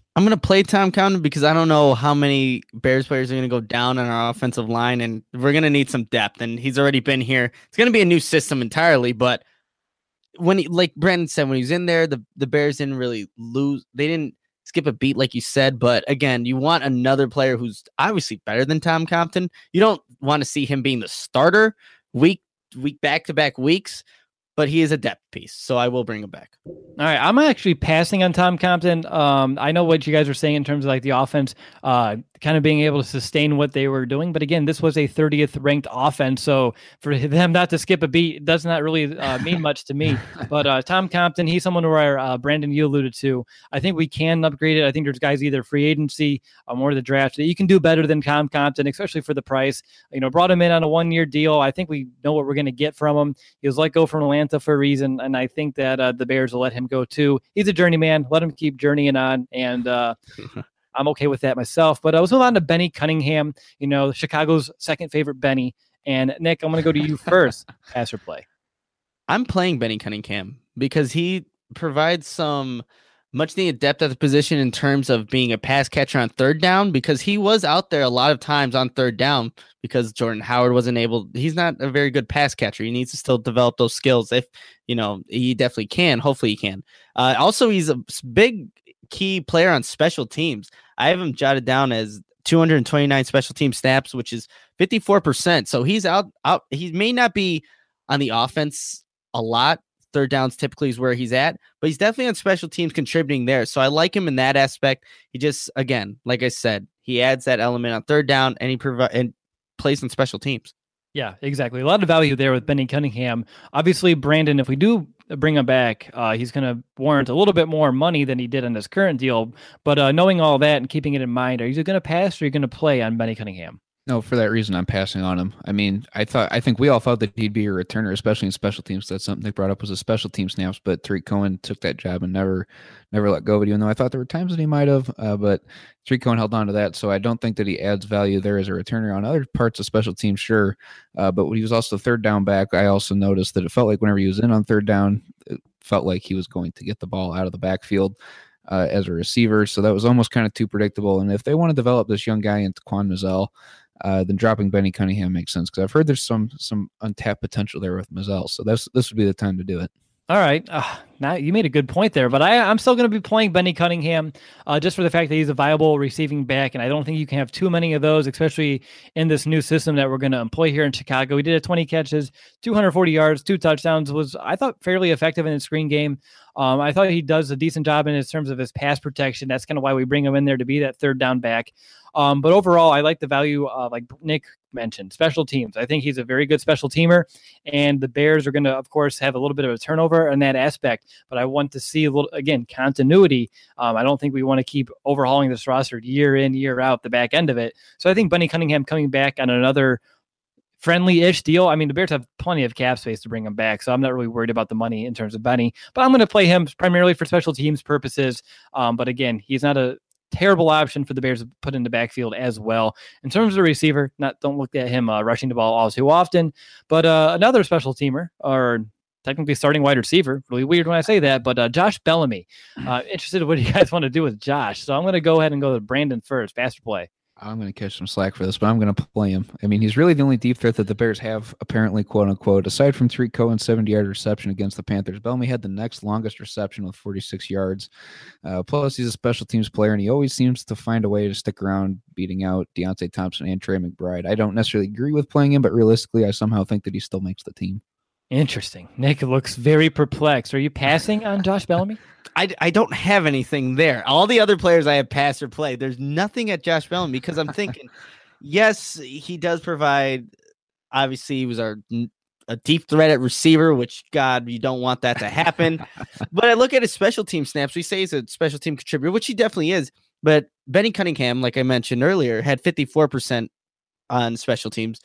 I'm going to play Tom Compton because I don't know how many Bears players are going to go down on our offensive line, and we're going to need some depth, and he's already been here. It's going to be a new system entirely, but when he, like Brandon said, when he was in there, the, the Bears didn't really lose. They didn't skip a beat like you said, but again, you want another player who's obviously better than Tom Compton. You don't want to see him being the starter week, week back-to-back weeks, but he is a depth piece, so I will bring him back. All right, I'm actually passing on Tom Compton. Um, I know what you guys were saying in terms of like the offense, uh, kind of being able to sustain what they were doing. But again, this was a thirtieth ranked offense, so for them not to skip a beat does not really uh, mean much to me. But uh, Tom Compton, he's someone where uh, Brandon, you alluded to. I think we can upgrade it. I think there's guys either free agency um, or the draft that you can do better than Tom Compton, especially for the price. You know, brought him in on a one-year deal. I think we know what we're going to get from him. He was let go from Atlanta for a reason, and I think that uh, the Bears will let him go too. He's a journeyman. Let him keep journeying on, and uh, I'm okay with that myself. But I was moving on to Benny Cunningham, you know, Chicago's second favorite Benny. And Nick, I'm going to go to you first. Pass or play? I'm playing Benny Cunningham because he provides some much needed depth at the position in terms of being a pass catcher on third down, because he was out there a lot of times on third down because Jordan Howard wasn't able. He's not a very good pass catcher. He needs to still develop those skills. If, you know, he definitely can. Hopefully he can. Uh, also, he's a big key player on special teams. I have him jotted down as two hundred twenty-nine special team snaps, which is fifty-four percent. So he's out, out. He may not be on the offense a lot. Third downs typically is where he's at, but he's definitely on special teams contributing there. So I like him in that aspect. He just, again, like I said, he adds that element on third down, and he provides and plays on special teams. Yeah, exactly. A lot of value there with Benny Cunningham. Obviously, Brandon, if we do bring him back, uh, he's going to warrant a little bit more money than he did in his current deal. But uh, knowing all that and keeping it in mind, are you going to pass or are you going to play on Benny Cunningham? No, for that reason, I'm passing on him. I mean, I thought, I think we all thought that he'd be a returner, especially in special teams. That's something they brought up was a special team snaps, but Tariq Cohen took that job and never, never let go of it, even though I thought there were times that he might have, uh, but Tariq Cohen held on to that. So I don't think that he adds value there as a returner on other parts of special teams. Sure. Uh, but when he was also third down back, I also noticed that it felt like whenever he was in on third down, it felt like he was going to get the ball out of the backfield uh, as a receiver. So that was almost kind of too predictable. And if they want to develop this young guy into Quan Mazzell, Uh, then dropping Benny Cunningham makes sense, because I've heard there's some some untapped potential there with Mazzell. So this this would be the time to do it. All right. Uh, now you made a good point there, but I, I'm still going to be playing Benny Cunningham uh, just for the fact that he's a viable receiving back, and I don't think you can have too many of those, especially in this new system that we're going to employ here in Chicago. He did a twenty catches, two hundred forty yards, two touchdowns, was, I thought, fairly effective in his screen game. Um, I thought he does a decent job in his terms of his pass protection. That's kind of why we bring him in there to be that third down back. Um, but overall, I like the value, uh, like Nick mentioned, special teams. I think he's a very good special teamer, and the Bears are going to, of course, have a little bit of a turnover in that aspect. But I want to see a little, again, continuity. Um, I don't think we want to keep overhauling this roster year in, year out, the back end of it. So I think Benny Cunningham coming back on another friendly-ish deal. I mean, the Bears have plenty of cap space to bring him back, so I'm not really worried about the money in terms of Benny. But I'm going to play him primarily for special teams purposes. Um, but again, he's not a terrible option for the Bears to put in the backfield as well. In terms of the receiver, not don't look at him uh, rushing the ball all too often. But uh, another special teamer, or technically starting wide receiver, really weird when I say that, but uh, Josh Bellamy. Uh, interested in what you guys want to do with Josh. So I'm going to go ahead and go to Brandon first. Faster play. I'm going to catch some slack for this, but I'm going to play him. I mean, he's really the only deep threat that the Bears have, apparently, quote unquote. Aside from Tariq Cohen's seventy-yard reception against the Panthers, Bellamy had the next longest reception with forty-six yards. Uh, plus, he's a special teams player, and he always seems to find a way to stick around, beating out Deontay Thompson and Trey McBride. I don't necessarily agree with playing him, but realistically, I somehow think that he still makes the team. Interesting. Nick looks very perplexed. Are you passing on Josh Bellamy? I, I don't have anything there. All the other players I have passed or played, there's nothing at Josh Bellamy, because I'm thinking, yes, he does provide, obviously he was our a deep threat at receiver, which, God, you don't want that to happen. But I look at his special team snaps. We say he's a special team contributor, which he definitely is. But Benny Cunningham, like I mentioned earlier, had fifty-four percent on special teams.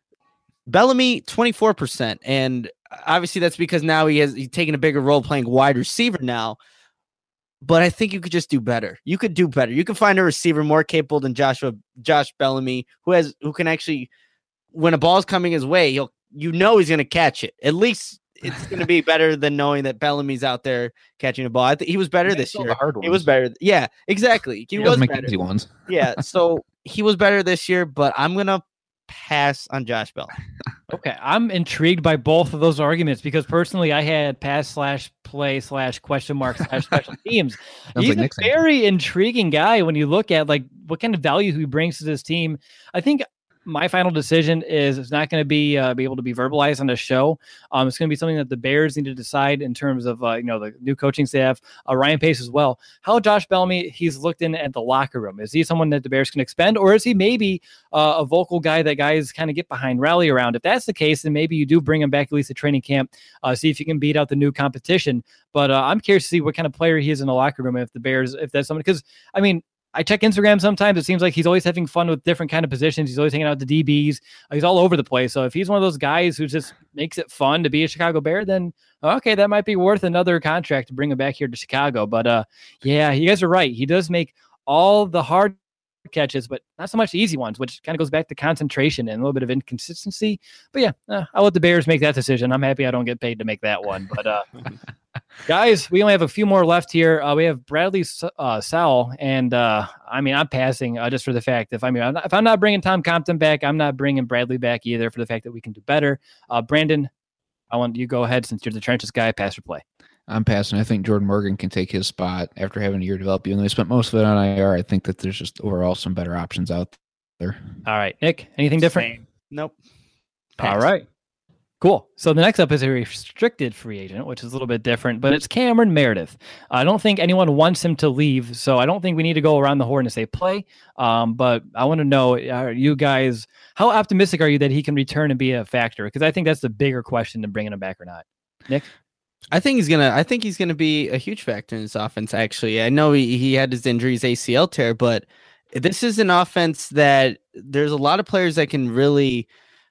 Bellamy, twenty-four percent. And obviously that's because now he has he's taken a bigger role playing wide receiver now. But I think you could just do better. You could do better. You can find a receiver more capable than Joshua Josh Bellamy, who has who can actually, when a ball's coming his way, he'll you know he's going to catch it. At least it's going to be better than knowing that Bellamy's out there catching a ball. I think he was better Yeah, this all year. the hard He was ones. better. Yeah, exactly. He, He was doesn't make better. easy ones. Yeah, so he was better this year, but I'm going to pass on Josh Bell. Okay, I'm intrigued by both of those arguments because personally, I had pass slash play slash question mark slash special teams. Sounds He's like a Nick's answer. very intriguing guy when you look at like what kind of value he brings to this team. I think my final decision is it's not going to be uh, be able to be verbalized on the show. Um, it's going to be something that the Bears need to decide in terms of uh, you know the new coaching staff, uh, Ryan Pace as well. How Josh Bellamy he's looked in at the locker room. Is he someone that the Bears can expend, or is he maybe uh, a vocal guy that guys kind of get behind, rally around? If that's the case, then maybe you do bring him back at least at training camp, uh, see if you can beat out the new competition. But uh, I'm curious to see what kind of player he is in the locker room. If the Bears, if that's someone, because I mean. I check Instagram sometimes. It seems like he's always having fun with different kind of positions. He's always hanging out with the D Bs. Uh, he's all over the place. So if he's one of those guys who just makes it fun to be a Chicago Bear, then okay, that might be worth another contract to bring him back here to Chicago. But uh, yeah, you guys are right. He does make all the hard catches, but not so much the easy ones, which kind of goes back to concentration and a little bit of inconsistency. But yeah, uh, I'll let the Bears make that decision. I'm happy I don't get paid to make that one. But uh, guys, we only have a few more left here. Uh, we have Bradley uh, Sowell, and uh, I mean, I'm passing uh, just for the fact if I mean, I'm not, if I'm not bringing Tom Compton back, I'm not bringing Bradley back either for the fact that we can do better. Uh, Brandon, I want you to go ahead since you're the trenches guy. Pass or play. I'm passing. I think Jordan Morgan can take his spot after having a year develop. Even though he spent most of it on I R, I think that there's just overall some better options out there. All right, Nick, anything different? Same. Nope. All Pass. right. Cool. So the next up is a restricted free agent, which is a little bit different, but it's Cameron Meredith. I don't think anyone wants him to leave, so I don't think we need to go around the horn and say play. Um, but I want to know, are you guys, how optimistic are you that he can return and be a factor? Because I think that's the bigger question than bringing him back or not. Nick? I think he's gonna. I think he's gonna be a huge factor in this offense. Actually, I know he, he had his injuries, A C L tear, but this is an offense that there's a lot of players that can really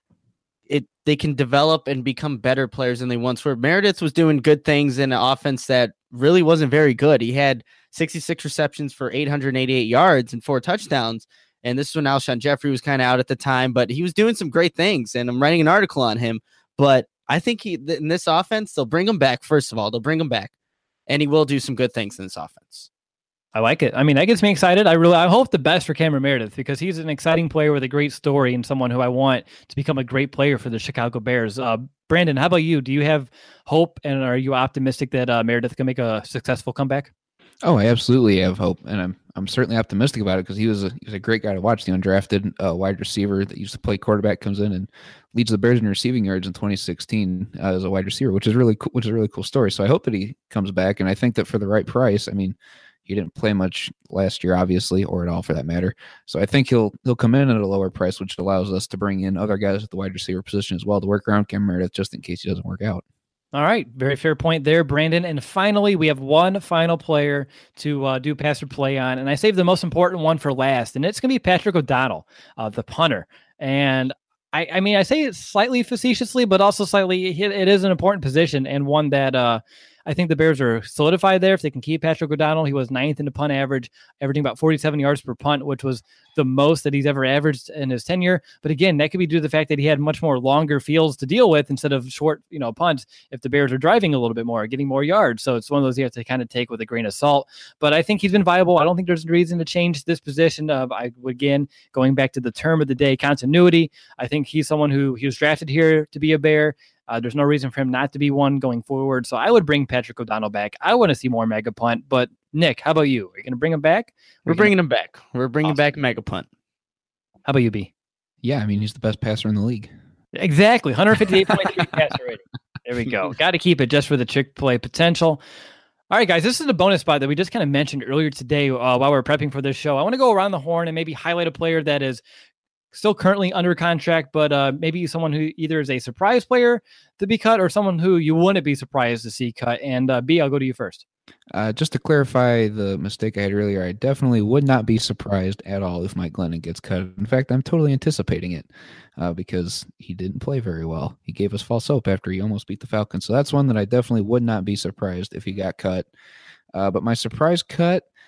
it. They can develop and become better players than they once were. Meredith was doing good things in an offense that really wasn't very good. He had sixty-six receptions for eight hundred eighty-eight yards and four touchdowns. And this is when Alshon Jeffrey was kind of out at the time, but he was doing some great things. And I'm writing an article on him, but I think he in this offense, they'll bring him back. First of all, they'll bring him back, and he will do some good things in this offense. I like it. I mean, that gets me excited. I really, I hope the best for Cameron Meredith because he's an exciting player with a great story and someone who I want to become a great player for the Chicago Bears. Uh, Brandon, how about you? Do you have hope and are you optimistic that uh, Meredith can make a successful comeback? Oh, I absolutely have hope, and I'm I'm certainly optimistic about it because he was a he was a great guy to watch. The undrafted uh, wide receiver that used to play quarterback comes in and leads the Bears in receiving yards in twenty sixteen uh, as a wide receiver, which is really cool, which is a really cool story. So I hope that he comes back, and I think that for the right price. I mean, he didn't play much last year, obviously, or at all for that matter. So I think he'll he'll come in at a lower price, which allows us to bring in other guys at the wide receiver position as well to work around Cam Meredith just in case he doesn't work out. All right. Very fair point there, Brandon. And finally, we have one final player to uh, do pass or play on. And I saved the most important one for last. And it's going to be Patrick O'Donnell, uh, the punter. And I, I mean, I say it slightly facetiously, but also slightly, it, it is an important position and one that uh, I think the Bears are solidified there. If they can keep Patrick O'Donnell, he was ninth in the punt average, averaging about forty-seven yards per punt, which was the most that he's ever averaged in his tenure. But again, that could be due to the fact that he had much more longer fields to deal with instead of short, you know, punts if the Bears are driving a little bit more, getting more yards. So it's one of those you have to kind of take with a grain of salt. But I think he's been viable. I don't think there's a reason to change this position of, I again, going back to the term of the day, continuity. I think he's someone who he was drafted here to be a Bear. Uh, there's no reason for him not to be one going forward. So I would bring Patrick O'Donnell back. I want to see more mega punt. But Nick, how about you? Are you going to bring him back? We're bringing him back. We're bringing Awesome. back mega punt. How about you, B? Yeah, I mean, he's the best passer in the league. Exactly. one fifty-eight point three passer rating. There we go. Got to keep it just for the Chick-fil-A potential. All right, guys, this is a bonus spot that we just kind of mentioned earlier today uh, while we were prepping for this show. I want to go around the horn and maybe highlight a player that is still currently under contract, but uh, maybe someone who either is a surprise player to be cut or someone who you wouldn't be surprised to see cut. And uh, B, I'll go to you first. Uh, just to clarify the mistake I had earlier, I definitely would not be surprised at all if Mike Glennon gets cut. In fact, I'm totally anticipating it uh, because he didn't play very well. He gave us false hope after he almost beat the Falcons. So that's one that I definitely would not be surprised if he got cut. Uh, but my surprise cut,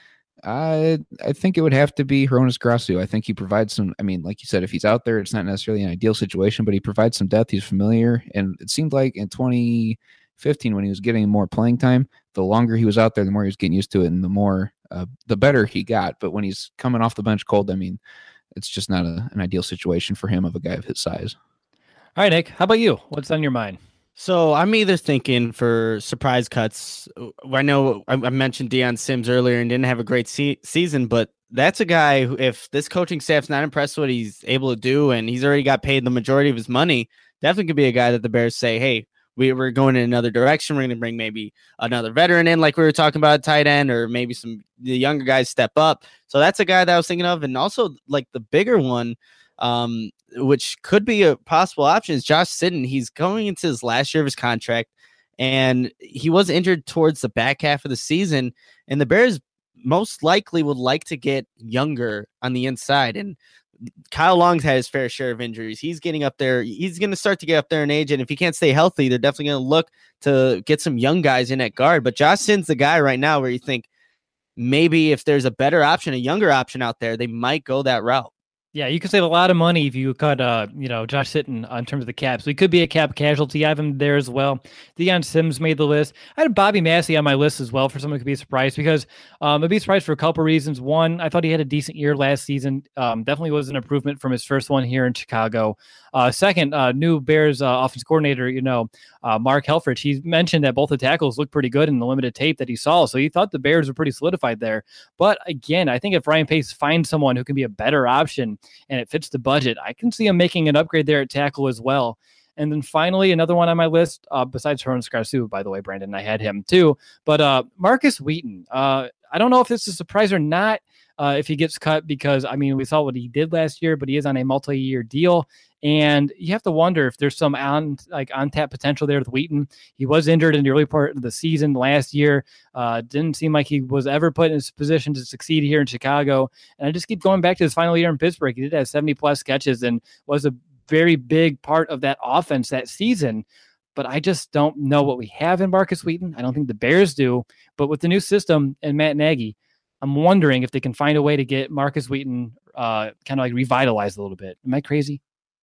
I I think it would have to be Hronis Grasu. I think he provides some. I mean, like you said, if he's out there, it's not necessarily an ideal situation, but he provides some depth. He's familiar, and it seemed like in twenty fifteen when he was getting more playing time, the longer he was out there, the more he was getting used to it, and the more uh, the better he got. But when he's coming off the bench cold, I mean, it's just not a, an ideal situation for him of a guy of his size. All right, Nick, how about you? What's on your mind? So I'm either thinking for surprise cuts. I know I mentioned Deion Sims earlier and didn't have a great se- season, but that's a guy who, if this coaching staff's not impressed with what he's able to do, and he's already got paid the majority of his money, definitely could be a guy that the Bears say, hey, we, we're going in another direction. We're going to bring maybe another veteran in, like we were talking about, tight end, or maybe some the younger guys step up. So that's a guy that I was thinking of. And also like the bigger one, um, which could be a possible option, is Josh Sitton. He's going into his last year of his contract, and he was injured towards the back half of the season. And the Bears most likely would like to get younger on the inside. And Kyle Long's had his fair share of injuries. He's getting up there. He's going to start to get up there in age. And if he can't stay healthy, they're definitely going to look to get some young guys in at guard. But Josh Sitton's the guy right now where you think maybe if there's a better option, a younger option out there, they might go that route. Yeah, you could save a lot of money if you cut, uh, you know, Josh Sitton uh, in terms of the cap. So he could be a cap casualty. I have him there as well. Deion Sims made the list. I had Bobby Massey on my list as well for someone who could be surprised because um, I'd be surprised for a couple reasons. One, I thought he had a decent year last season. Um, definitely was an improvement from his first one here in Chicago. Uh, second, uh, new Bears uh, offense coordinator, you know, uh, Mark Helfrich. He mentioned that both the tackles looked pretty good in the limited tape that he saw. So he thought the Bears were pretty solidified there. But again, I think if Ryan Pace finds someone who can be a better option and it fits the budget, I can see him making an upgrade there at tackle as well. And then finally, another one on my list, uh, besides Hronis Grasu, by the way, Brandon, I had him too. But uh, Marcus Wheaton, uh, I don't know if this is a surprise or not uh, if he gets cut because, I mean, we saw what he did last year, but he is on a multi-year deal. And you have to wonder if there's some on like on-tap potential there with Wheaton. He was injured in the early part of the season last year. Uh, didn't seem like he was ever put in his position to succeed here in Chicago. And I just keep going back to his final year in Pittsburgh. He did have seventy-plus catches and was a very big part of that offense that season. But I just don't know what we have in Marcus Wheaton. I don't think the Bears do. But with the new system and Matt Nagy, I'm wondering if they can find a way to get Marcus Wheaton uh, kind of like revitalized a little bit. Am I crazy?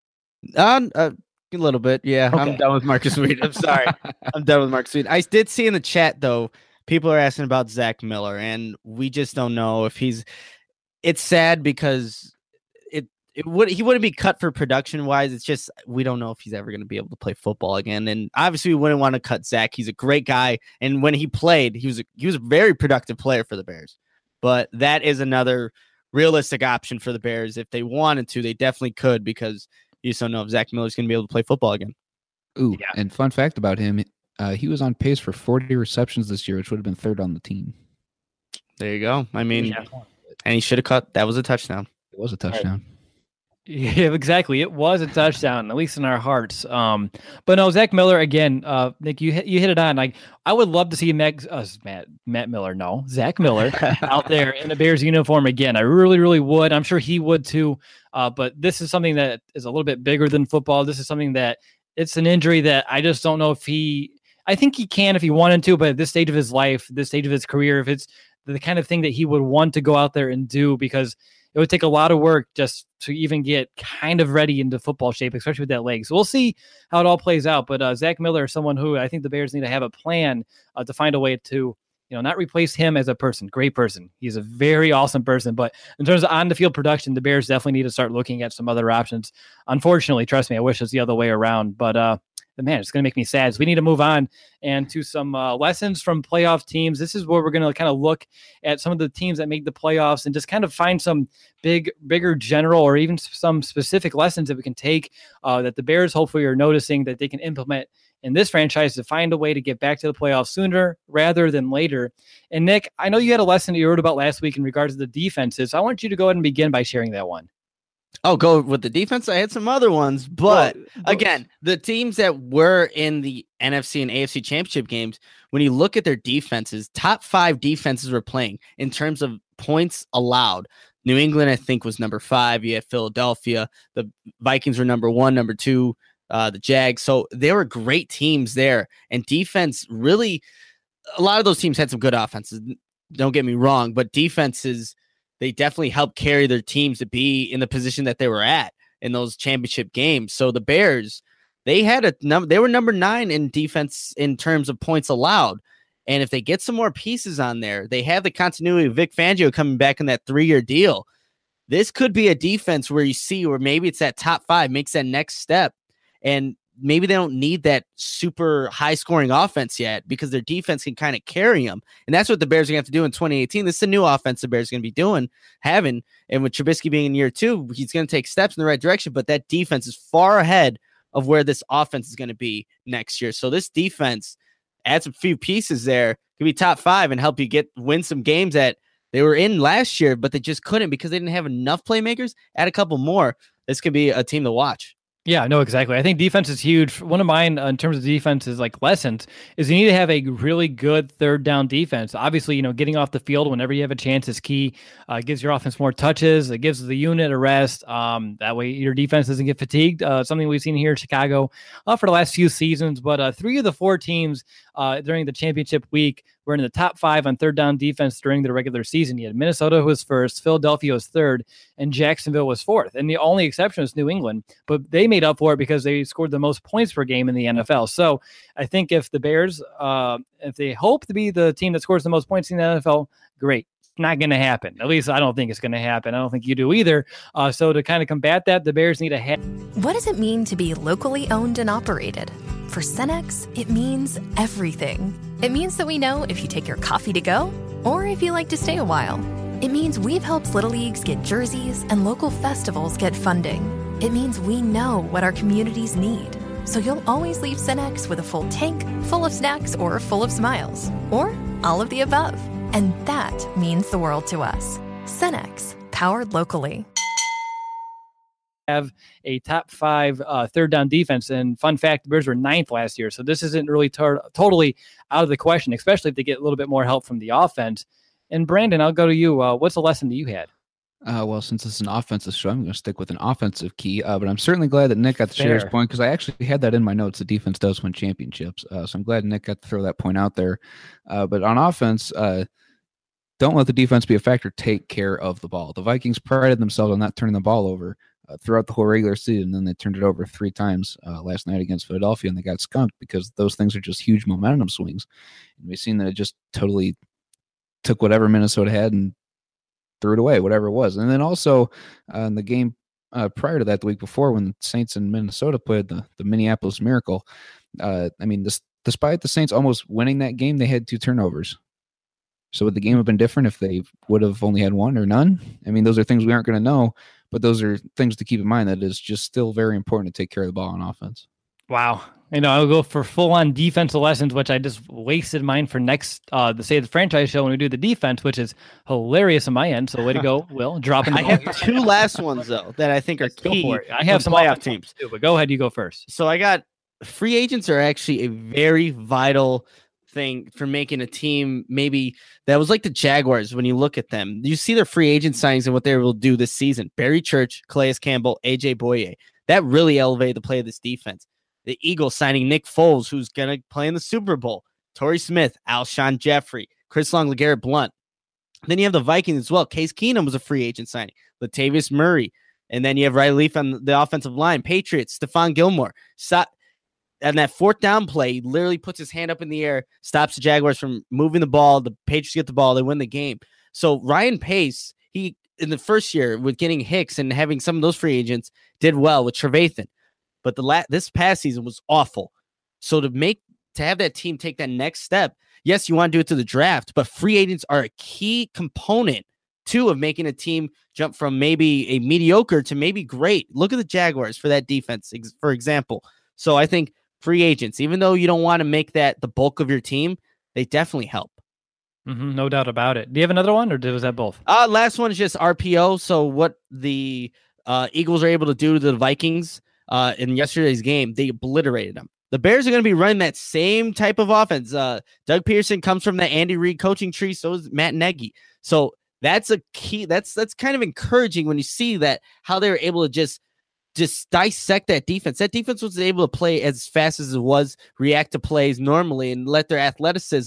Uh, uh, a little bit, yeah. Okay. I'm done with Marcus Wheaton. I'm sorry. I'm done with Marcus Wheaton. I did see in the chat, though, people are asking about Zach Miller, and we just don't know if he's – it's sad because it it would he wouldn't be cut for production-wise. It's just we don't know if he's ever going to be able to play football again. And obviously, we wouldn't want to cut Zach. He's a great guy, and when he played, he was a, he was a very productive player for the Bears. But that is another realistic option for the Bears. If they wanted to, they definitely could because – you just don't know if Zach Miller's going to be able to play football again. Ooh, yeah. And fun fact about him, uh, he was on pace for forty receptions this year, which would have been third on the team. There you go. I mean, yeah. And he should have caught. That was a touchdown. It was a touchdown. Yeah, exactly. It was a touchdown, at least in our hearts. Um, but no, Zach Miller again. Uh, Nick, you hit, you hit it on. Like, I would love to see Matt, uh, Matt Matt Miller. No, Zach Miller out there in a Bears uniform again. I really, really would. I'm sure he would too. Uh, but this is something that is a little bit bigger than football. This is something that it's an injury that I just don't know if he. I think he can if he wanted to, but at this stage of his life, this stage of his career, if it's the kind of thing that he would want to go out there and do, because it would take a lot of work just to even get kind of ready into football shape, especially with that leg. So we'll see how it all plays out. But uh, Zach Miller is someone who I think the Bears need to have a plan uh, to find a way to, you know, not replace him as a person. Great person. He's a very awesome person. But in terms of on-the-field production, the Bears definitely need to start looking at some other options. Unfortunately, trust me, I wish it's the other way around. But uh, man, it's going to make me sad. So we need to move on and to some uh, lessons from playoff teams. This is where we're going to kind of look at some of the teams that make the playoffs and just kind of find some big, bigger general or even some specific lessons that we can take uh, that the Bears hopefully are noticing that they can implement in this franchise to find a way to get back to the playoffs sooner rather than later. And Nick, I know you had a lesson that you wrote about last week in regards to the defenses. So I want you to go ahead and begin by sharing that one. Oh, go with the defense. I had some other ones, but well, again, the teams that were in the N F C and A F C championship games, when you look at their defenses, top five defenses were playing in terms of points allowed. New England, I think, was number five. You had Philadelphia. The Vikings were number one, number two, uh, the Jags. So they were great teams there. And defense really, a lot of those teams had some good offenses. don't get me wrong, but defenses, they definitely help carry their teams to be in the position that they were at in those championship games. So the Bears, they had a number, they were number nine in defense in terms of points allowed. And if they get some more pieces on there, they have the continuity of Vic Fangio coming back in that three-year deal. This could be a defense where you see where maybe it's that top five, makes that next step. And maybe they don't need that super high-scoring offense yet because their defense can kind of carry them. And that's what the Bears are going to have to do in twenty eighteen. This is a new offense the Bears are going to be doing, having. And with Trubisky being in year two, he's going to take steps in the right direction. But that defense is far ahead of where this offense is going to be next year. So this defense adds a few pieces there, could be top five and help you get win some games that they were in last year, but they just couldn't because they didn't have enough playmakers. Add a couple more. This could be a team to watch. Yeah, no, exactly. I think defense is huge. One of mine uh, in terms of defense is like lessons is you need to have a really good third down defense. Obviously, you know, getting off the field whenever you have a chance is key. Uh, it gives your offense more touches. It gives the unit a rest. Um, that way your defense doesn't get fatigued. Uh, something we've seen here in Chicago uh, for the last few seasons. But uh, three of the four teams uh, during the championship week were in the top five on third down defense during the regular season. You had Minnesota was first, Philadelphia was third, and Jacksonville was fourth. And the only exception was New England, but they made up for it because they scored the most points per game in the N F L. So I think if the Bears, uh, if they hope to be the team that scores the most points in the N F L, great. Not going to happen. At least I don't think it's going to happen. I don't think you do either. Uh, so to kind of combat that, the Bears need a head. What does it mean to be locally owned and operated? For Cenex, it means everything. It means that we know if you take your coffee to go or if you like to stay a while. It means we've helped Little Leagues get jerseys and local festivals get funding. It means we know what our communities need. So you'll always leave Cenex with a full tank, full of snacks, or full of smiles. Or all of the above. And that means the world to us. Cenex, powered locally. Have a top five uh, third down defense. And fun fact, the Bears were ninth last year. So this isn't really tar- totally out of the question, especially if they get a little bit more help from the offense. And Brandon, I'll go to you. Uh, what's the lesson that you had? Uh, well, since it's an offensive show, I'm going to stick with an offensive key. Uh, but I'm certainly glad that Nick got to share his point because I actually had that in my notes. The defense does win championships. Uh, so I'm glad Nick got to throw that point out there. Uh, but on offense, uh, don't let the defense be a factor. Take care of the ball. The Vikings prided themselves on not turning the ball over uh, throughout the whole regular season. And then they turned it over three times uh, last night against Philadelphia, and they got skunked because those things are just huge momentum swings. And we've seen that it just totally took whatever Minnesota had and threw it away, whatever it was. And then also uh, in the game uh, prior to that, the week before, when the Saints and Minnesota played the, the Minneapolis Miracle, uh, I mean, this, despite the Saints almost winning that game, they had two turnovers. So would the game have been different if they would have only had one or none? I mean, those are things we aren't going to know, but those are things to keep in mind that it's just still very important to take care of the ball on offense. Wow. You know, I'll go for full-on defensive lessons, which I just wasted mine for next, uh, the Say the Franchise show when we do the defense, which is hilarious on my end. So way to go, Will. Dropping. I have two last ones, though, that I think are Let's key. Go for it. I have some playoff teams, too, but go ahead. You go first. So I got free agents are actually a very vital thing for making a team maybe that was like the Jaguars. When you look at them, you see their free agent signings and what they will do this season. Barry Church, Calais Campbell, A J Boye. That really elevated the play of this defense. The Eagles signing Nick Foles, who's going to play in the Super Bowl. Torrey Smith, Alshon Jeffrey, Chris Long, LeGarrette Blount. Then you have the Vikings as well. Case Keenum was a free agent signing. Latavius Murray. And then you have Riley Leaf on the offensive line. Patriots, Stephon Gilmore. So- And that fourth down play, he literally puts his hand up in the air, stops the Jaguars from moving the ball. The Patriots get the ball, they win the game. So Ryan Pace, he in the first year with getting Hicks and having some of those free agents, did well with Trevathan. But the la- this past season was awful. So to make to have that team take that next step, yes, you want to do it to the draft, but free agents are a key component too of making a team jump from maybe a mediocre to maybe great. Look at the Jaguars for that defense, ex- for example. So I think free agents, even though you don't want to make that the bulk of your team, they definitely help. Mm-hmm, no doubt about it. Do you have another one, or was that both? Uh, last one is just R P O. So what the uh, Eagles are able to do to the Vikings uh, in yesterday's game, they obliterated them. The Bears are going to be running that same type of offense. Uh, Doug Peterson comes from the Andy Reid coaching tree. So is Matt Nagy. So that's a key. That's that's kind of encouraging when you see that how they were able to just just dissect that defense. That defense was able to play as fast as it was, react to plays normally, and let their athleticism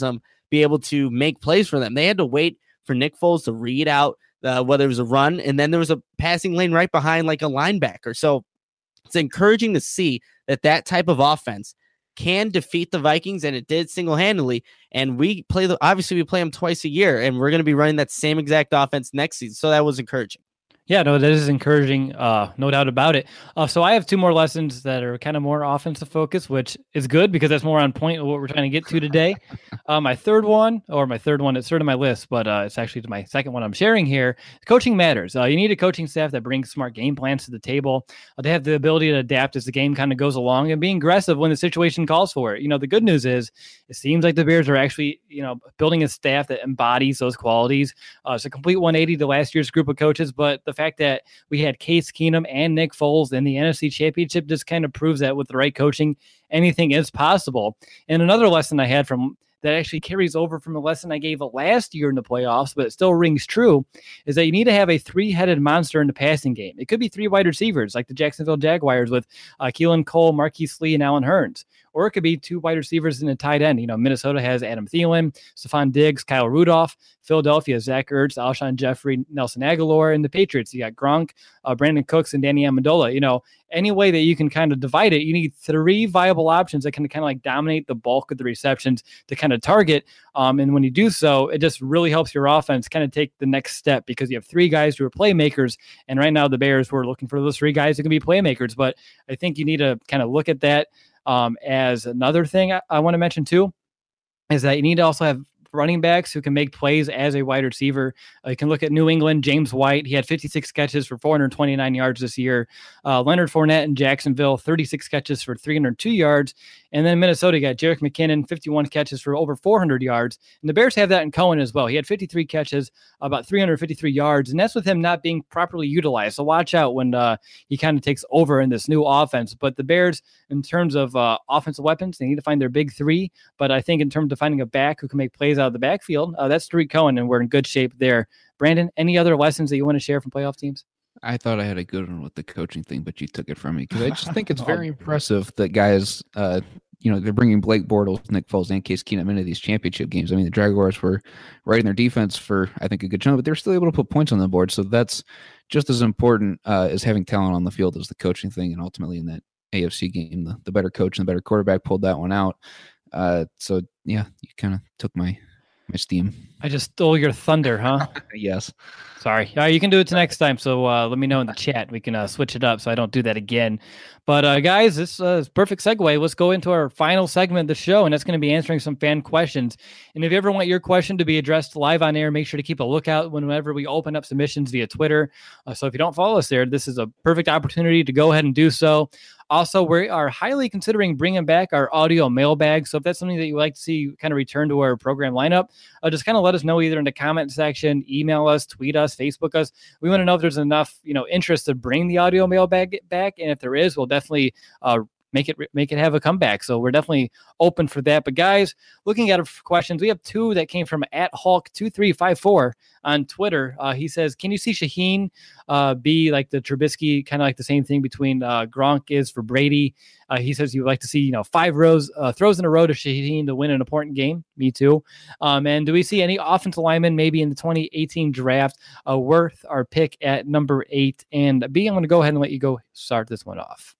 be able to make plays for them. They had to wait for Nick Foles to read out uh, whether it was a run, and then there was a passing lane right behind like a linebacker. So it's encouraging to see that that type of offense can defeat the Vikings, and it did single-handedly. And we play the obviously we play them twice a year, and we're going to be running that same exact offense next season. So that was encouraging. Yeah, no, that is encouraging. Uh, no doubt about it. Uh, so I have two more lessons that are kind of more offensive focused, which is good because that's more on point of what we're trying to get to today. Uh, my third one, or my third one, it's third on my list, but uh, it's actually my second one I'm sharing here. Coaching matters. Uh, you need a coaching staff that brings smart game plans to the table. Uh, they have the ability to adapt as the game kind of goes along and being aggressive when the situation calls for it. You know, the good news is it seems like the Bears are actually, you know, building a staff that embodies those qualities. Uh, it's a complete one eighty to last year's group of coaches, but the fact that we had Case Keenum and Nick Foles in the N F C Championship just kind of proves that with the right coaching, anything is possible. And another lesson I had from that actually carries over from a lesson I gave last year in the playoffs, but it still rings true, is that you need to have a three-headed monster in the passing game. It could be three wide receivers like the Jacksonville Jaguars with uh, Keelan Cole, Marquise Lee, and Allen Hurns. Or it could be two wide receivers and a tight end. You know, Minnesota has Adam Thielen, Stephon Diggs, Kyle Rudolph. Philadelphia, Zach Ertz, Alshon Jeffrey, Nelson Aguilar. And the Patriots, you got Gronk, uh, Brandon Cooks, and Danny Amendola. You know, any way that you can kind of divide it, you need three viable options that can kind of like dominate the bulk of the receptions to kind of target. Um, and when you do so, it just really helps your offense kind of take the next step because you have three guys who are playmakers. And right now the Bears were looking for those three guys who can be playmakers. But I think you need to kind of look at that. Um, as another thing I, I want to mention too, is that you need to also have running backs who can make plays as a wide receiver. Uh, you can look at New England, James White. He had fifty-six catches for four hundred twenty-nine yards this year. Uh, Leonard Fournette in Jacksonville, thirty-six catches for three hundred two yards. And then Minnesota got Jerick McKinnon, fifty-one catches for over four hundred yards. And the Bears have that in Cohen as well. He had fifty-three catches, about three hundred fifty-three yards. And that's with him not being properly utilized. So watch out when uh, he kind of takes over in this new offense. But the Bears, in terms of uh, offensive weapons, they need to find their big three. But I think in terms of finding a back who can make plays out of the backfield, uh, that's Tariq Cohen, and we're in good shape there. Brandon, any other lessons that you want to share from playoff teams? I thought I had a good one with the coaching thing, but you took it from me because I just think it's very impressive that guys, uh, you know, they're bringing Blake Bortles, Nick Foles, and Case Keenum into these championship games. I mean, the Jaguars were right in their defense for, I think, a good chunk, but they're still able to put points on the board. So that's just as important uh, as having talent on the field as the coaching thing. And ultimately in that A F C game, the, the better coach and the better quarterback pulled that one out. Uh, so, yeah, you kind of took my my steam. I just stole your thunder, huh? Yes. Sorry. All right, you can do it next time. So uh, let me know in the chat. We can uh, switch it up so I don't do that again. But uh, guys, this uh, is perfect segue. Let's go into our final segment of the show, and that's going to be answering some fan questions. And if you ever want your question to be addressed live on air, make sure to keep a lookout whenever we open up submissions via Twitter. Uh, so if you don't follow us there, this is a perfect opportunity to go ahead and do so. Also, we are highly considering bringing back our audio mailbag. So if that's something that you would like to see kind of return to our program lineup, uh, just kind of let us know either in the comment section, email us, tweet us, Facebook us. We want to know if there's enough, you know, interest to bring the audio mailbag back. And if there is, we'll definitely uh, make it make it have a comeback. So we're definitely open for that. But guys, looking at our questions, we have two that came from at Hulk two three five four on Twitter. Uh, he says, can you see Shaheen uh, be like the Trubisky, kind of like the same thing between uh, Gronk is for Brady? Uh, he says you would like to see, you know, five rows uh, throws in a row to Shaheen to win an important game. Me too. Um, and do we see any offensive linemen maybe in the twenty eighteen draft uh, worth our pick at number eight? And B, I'm going to go ahead and let you go start this one off.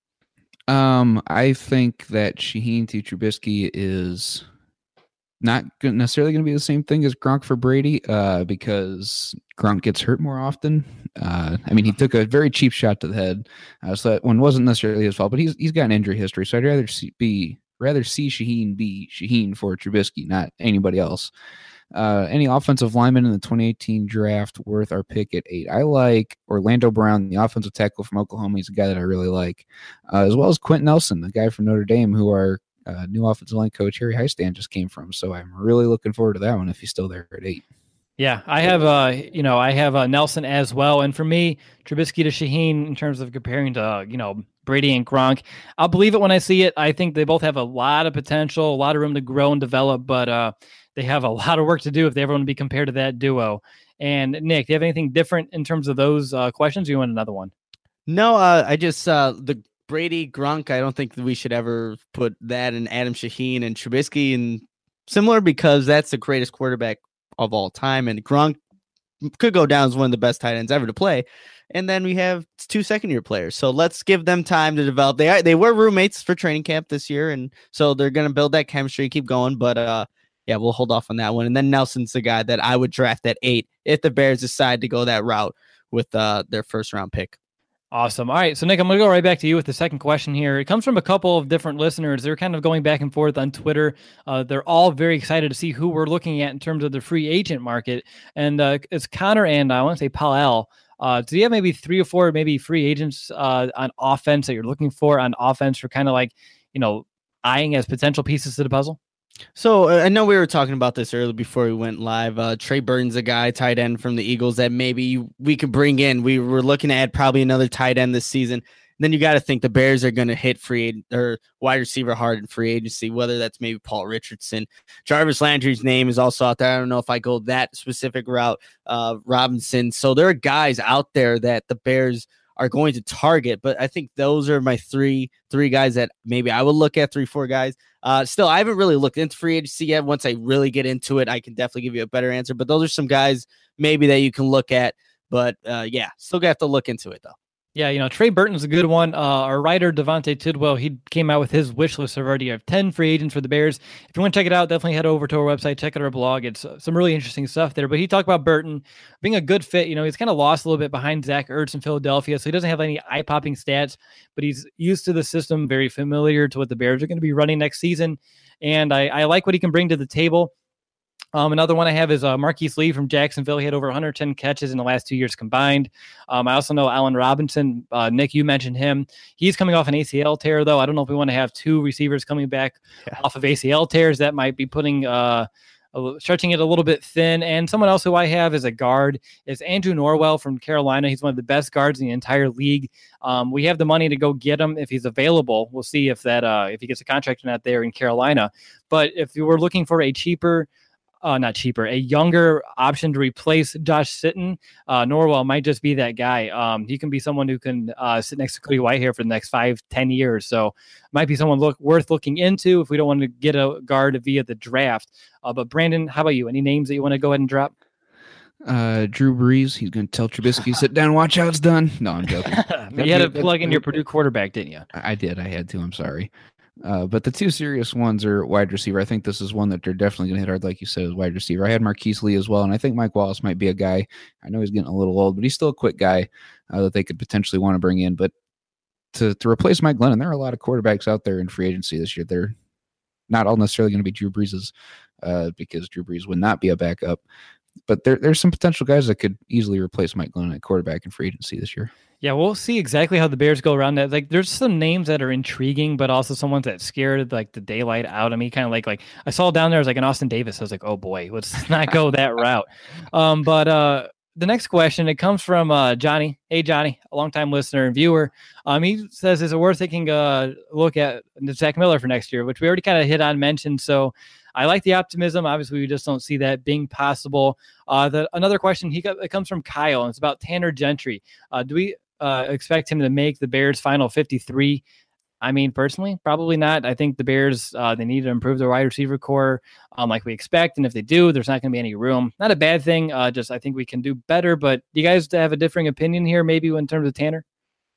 Um, I think that Shaheen to Trubisky is not necessarily going to be the same thing as Gronk for Brady, uh, because Gronk gets hurt more often. Uh, I mean, he took a very cheap shot to the head, uh, so that one wasn't necessarily his fault. But he's he's got an injury history, so I'd rather see, be rather see Shaheen be Shaheen for Trubisky, not anybody else. Uh, any offensive lineman in the twenty eighteen draft worth our pick at eight? I like Orlando Brown, the offensive tackle from Oklahoma. He's a guy that I really like, uh, as well as Quentin Nelson, the guy from Notre Dame, who our uh, new offensive line coach Harry Highstand just came from. So I'm really looking forward to that one if he's still there at eight. Yeah, I have, uh, you know, I have uh, Nelson as well. And for me, Trubisky to Shaheen in terms of comparing to, uh, you know, Brady and Gronk, I'll believe it when I see it. I think they both have a lot of potential, a lot of room to grow and develop, but uh, they have a lot of work to do if they ever want to be compared to that duo. And Nick, do you have anything different in terms of those uh, questions? Or you want another one? No, uh, I just, uh, the Brady Gronk, I don't think that we should ever put that in Adam Shaheen and Trubisky and similar because that's the greatest quarterback of all time, and Gronk could go down as one of the best tight ends ever to play. And then we have two second year players. So let's give them time to develop. They are, they were roommates for training camp this year. And so they're going to build that chemistry, keep going. But uh, yeah, we'll hold off on that one. And then Nelson's the guy that I would draft at eight if the Bears decide to go that route with uh, their first round pick. Awesome. All right. So, Nick, I'm going to go right back to you with the second question here. It comes from a couple of different listeners. They're kind of going back and forth on Twitter. Uh, they're all very excited to see who we're looking at in terms of the free agent market. And uh, it's Connor and I want to say Paul. Uh, do you have maybe three or four maybe free agents uh, on offense that you're looking for on offense for kind of like, you know, eyeing as potential pieces to the puzzle? So uh, I know we were talking about this earlier before we went live. Uh, Trey Burton's a guy, tight end from the Eagles that maybe we could bring in. We were looking at probably another tight end this season. And then you got to think the Bears are going to hit free or wide receiver hard in free agency, whether that's maybe Paul Richardson. Jarvis Landry's name is also out there. I don't know if I go that specific route. Uh, Robinson. So there are guys out there that the Bears are going to target, but I think those are my three three guys that maybe I would look at, three, four guys. Uh, still, I haven't really looked into free agency yet. Once I really get into it, I can definitely give you a better answer, but those are some guys maybe that you can look at. But uh, yeah, still got to look into it though. Yeah, you know, Trey Burton's a good one. Uh, our writer, Devontae Tidwell, he came out with his wish list already of ten free agents for the Bears. If you want to check it out, definitely head over to our website, check out our blog. It's uh, some really interesting stuff there. But he talked about Burton being a good fit. You know, he's kind of lost a little bit behind Zach Ertz in Philadelphia, so he doesn't have any eye-popping stats, but he's used to the system, very familiar to what the Bears are going to be running next season. And I, I like what he can bring to the table. Um, another one I have is uh, Marquise Lee from Jacksonville. He had over one hundred ten catches in the last two years combined. Um, I also know Allen Robinson. Uh, Nick, you mentioned him. He's coming off an A C L tear, though. I don't know if we want to have two receivers coming back yeah. off of A C L tears. That might be putting uh, a, stretching it a little bit thin. And someone else who I have as a guard is Andrew Norwell from Carolina. He's one of the best guards in the entire league. Um, we have the money to go get him if he's available. We'll see if that uh, if he gets a contract or not there in Carolina. But if you were looking for a cheaper Uh, not cheaper, a younger option to replace Josh Sitton, uh, Norwell might just be that guy. Um, he can be someone who can uh, sit next to Cody Whitehair for the next five, ten years. So might be someone look worth looking into if we don't want to get a guard via the draft. Uh, but Brandon, how about you? Any names that you want to go ahead and drop? Uh, Drew Brees. He's going to tell Trubisky, sit down, watch how it's done. No, I'm joking. You had to plug in your Purdue quarterback, didn't you? I did. I had to. I'm sorry. Uh, but the two serious ones are wide receiver. I think this is one that they're definitely going to hit hard, like you said, is wide receiver. I had Marquise Lee as well, and I think Mike Wallace might be a guy. I know he's getting a little old, but he's still a quick guy uh, that they could potentially want to bring in. But to to replace Mike Glennon, there are a lot of quarterbacks out there in free agency this year. They're not all necessarily going to be Drew Brees's uh, because Drew Brees would not be a backup. But there, there's some potential guys that could easily replace Mike Glennon at quarterback in free agency this year. Yeah, we'll see exactly how the Bears go around that. Like, there's some names that are intriguing, but also some ones that scared like the daylight out of me. Kind of like like I saw down there, I was like an Austin Davis. I was like, oh boy, let's not go that route. Um, but uh, the next question, it comes from uh, Johnny. Hey, Johnny, a longtime listener and viewer. Um, he says, is it worth taking a look at Zach Miller for next year, which we already kind of hit on, mentioned. So I like the optimism. Obviously, we just don't see that being possible. Uh, the, another question, he got, it comes from Kyle, and it's about Tanner Gentry. Uh, do we uh, expect him to make the Bears' final fifty-three? I mean, personally, probably not. I think the Bears, uh, they need to improve their wide receiver core um, like we expect. And if they do, there's not going to be any room. Not a bad thing. Uh, just I think we can do better. But do you guys have a differing opinion here, maybe in terms of Tanner?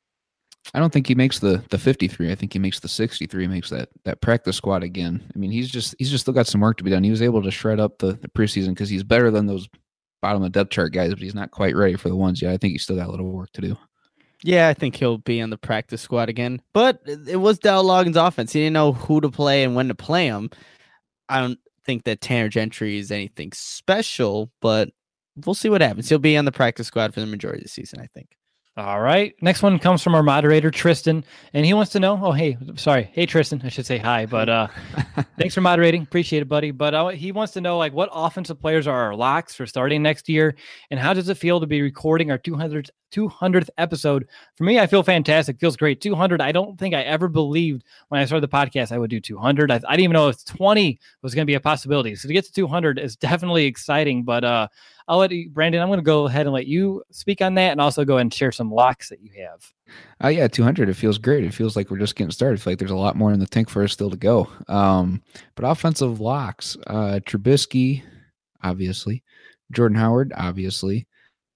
I don't think he makes the the fifty-three. I think he makes the sixty-three. He makes that that practice squad again. I mean, he's just he's just still got some work to be done. He was able to shred up the, the preseason because he's better than those bottom of the depth chart guys, but he's not quite ready for the ones yet. I think he's still got a little work to do. Yeah, I think he'll be on the practice squad again. But it was Dowell Loggins' offense. He didn't know who to play and when to play him. I don't think that Tanner Gentry is anything special, but we'll see what happens. He'll be on the practice squad for the majority of the season, I think. All right. Next one comes from our moderator, Tristan, and he wants to know, oh, hey, sorry. Hey, Tristan, I should say hi, but uh, thanks for moderating. Appreciate it, buddy. But uh, he wants to know, like, what offensive players are our locks for starting next year, and how does it feel to be recording our two hundredth two hundredth episode. For me, I feel fantastic. Feels great. two hundred. I don't think I ever believed when I started the podcast I would do two hundred. I, I didn't even know if twenty was going to be a possibility. So to get to two hundred is definitely exciting. But uh, I'll let you, Brandon, I'm going to go ahead and let you speak on that and also go ahead and share some locks that you have. Uh, yeah, two hundred. It feels great. It feels like we're just getting started. I feel like there's a lot more in the tank for us still to go. Um, but offensive locks, uh, Trubisky, obviously. Jordan Howard, obviously.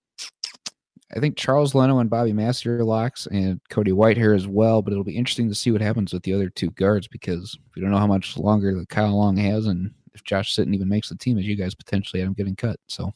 I think Charles Leno and Bobby Massey locks, and Cody Whitehair as well, but it'll be interesting to see what happens with the other two guards because we don't know how much longer that Kyle Long has and if Josh Sitton even makes the team, as you guys potentially had him getting cut. So,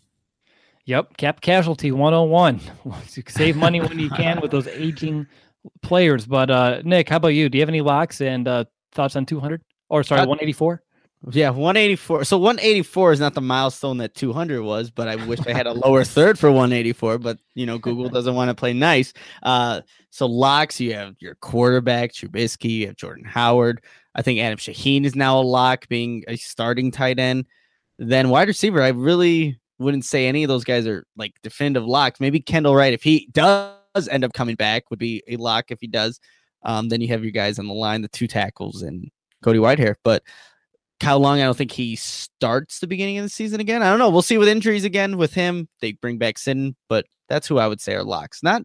yep, cap casualty one oh one. Save money when you can with those aging players. But uh, Nick, how about you? Do you have any locks and uh, thoughts on two hundred? Or sorry, uh, one eighty-four? Yeah, one eighty-four. So one eighty-four is not the milestone that two hundred was, but I wish I had a lower third for one eighty-four, but you know, Google doesn't want to play nice. Uh, so locks, you have your quarterback, Trubisky, you have Jordan Howard. I think Adam Shaheen is now a lock, being a starting tight end. Then wide receiver, I really wouldn't say any of those guys are like definitive locks. Maybe Kendall Wright, if he does end up coming back, would be a lock if he does. Um, then you have your guys on the line, the two tackles and Cody Whitehair. But Kyle Long, I don't think he starts the beginning of the season again. I don't know. We'll see with injuries again with him. They bring back Sitton, but that's who I would say are locks. Not